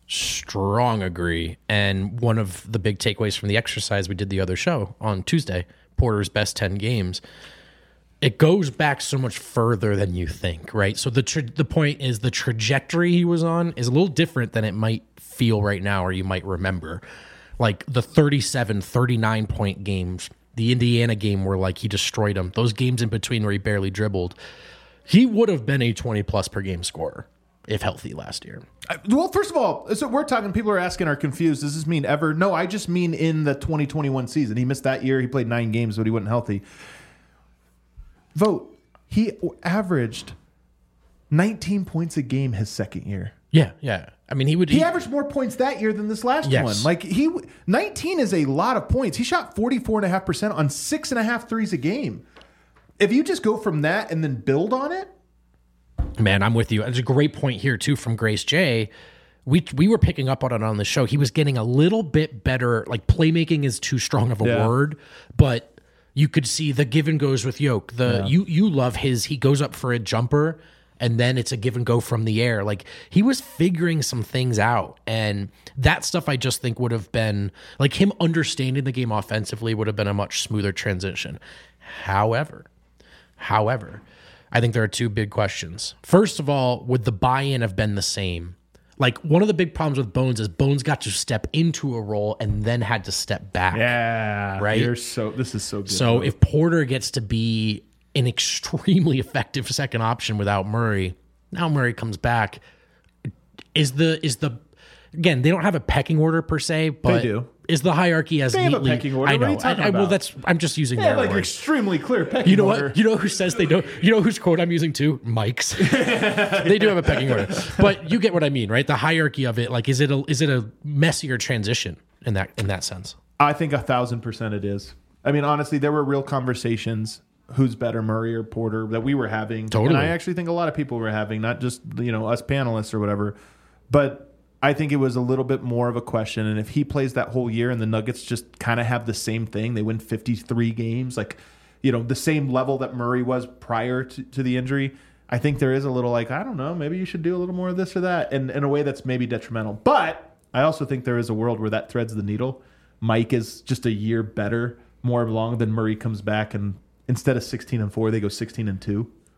Strong agree. And one of the big takeaways from the exercise we did the other show on Tuesday, Porter's best ten games, it goes back so much further than you think, right? So the tra- the point is the trajectory he was on is a little different than it might feel right now or you might remember. Like the thirty-seven, thirty-nine point games, the Indiana game where like he destroyed them, those games in between where he barely dribbled, he would have been a twenty plus per game scorer if healthy last year. Well, first of all, so we're talking, people are asking, are confused. Does this mean ever? No, I just mean in the twenty twenty-one season. He missed that year. He played nine games, but he wasn't healthy. Vote. He averaged nineteen points a game his second year. Yeah, yeah. I mean, he would. He averaged more points that year than this last Yes. one. Like he, nineteen is a lot of points. He shot forty-four and a half percent on six and a half threes a game. If you just go from that and then build on it, Man, I'm with you. There's a great point here too from Grace J. We we were picking up on it on the show. He was getting a little bit better. Like playmaking is too strong of a Yeah. word, but you could see the give and goes with Yoke. The Yeah. you you love his. He goes up for a jumper, and then it's a give and go from the air. Like he was figuring some things out, and that stuff I just think would have been like him understanding the game offensively would have been a much smoother transition. However, however, I think there are two big questions. First of all, would the buy-in have been the same? Like one of the big problems with Bones is Bones got to step into a role and then had to step back. yeah, Right? You're so this is so good. So if Porter gets to be an extremely effective second option without Murray, now Murray comes back. Is the is the again, they don't have a pecking order per se, but do. is the hierarchy as They have a neatly pecking order. I What know. are you talking I, I, well about? that's I'm just using yeah, their like words. extremely clear pecking You know order. what? You know who says they don't? You know whose quote I'm using too? Mike's. They do have a pecking order, but you get what I mean, right? The hierarchy of it, like, is it a is it a messier transition in that in that sense? I think a thousand percent it is. I mean, honestly, there were real conversations. Who's better, Murray or Porter, that we were having. Totally. And I actually think a lot of people were having, not just, you know, us panelists or whatever. But I think it was a little bit more of a question. And if he plays that whole year and the Nuggets just kind of have the same thing, they win fifty-three games, like, you know, the same level that Murray was prior to, to the injury, I think there is a little like, I don't know, maybe you should do a little more of this or that, and in a way that's maybe detrimental. But I also think there is a world where that threads the needle. Mike is just a year better, more along than Murray comes back, and instead of sixteen and four, they go sixteen and two.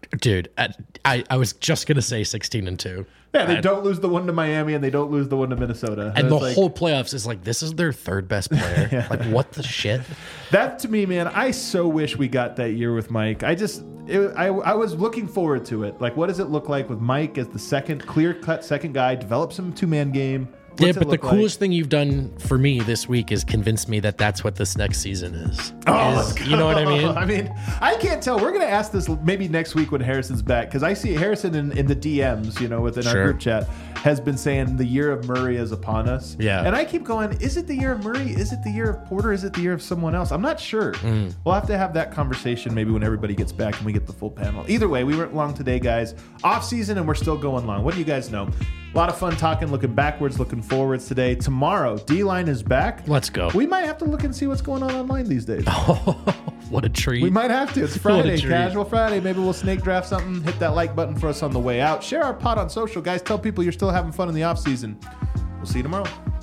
Dude, I, I, I was just going to say sixteen and two. Yeah, they I, don't lose the one to Miami and they don't lose the one to Minnesota. And the like, whole playoffs is like, this is their third best player. yeah. Like, what the shit? That to me, man, I so wish we got that year with Mike. I just, it, I, I was looking forward to it. Like, what does it look like with Mike as the second, clear-cut second guy, develop some two-man game? What's yeah, but the coolest like? thing you've done for me this week is convince me that that's what this next season is. Oh, is, you know what I mean? I mean, I can't tell. We're going to ask this maybe next week when Harrison's back, because I see Harrison in, in the D Ms, you know, within sure. our group chat, has been saying the year of Murray is upon us. Yeah. And I keep going, is it the year of Murray? Is it the year of Porter? Is it the year of someone else? I'm not sure. Mm. We'll have to have that conversation maybe when everybody gets back and we get the full panel. Either way, we went long today, guys. Off season, and we're still going long. What do you guys know? A lot of fun talking, looking backwards, looking forwards today. Tomorrow, D-Line is back. Let's go. We might have to look and see what's going on online these days. Oh, what a treat. We might have to. It's Friday, Casual Friday. Maybe we'll snake draft something. Hit that like button for us on the way out. Share our pod on social. Guys, tell people you're still having fun in the off season. We'll see you tomorrow.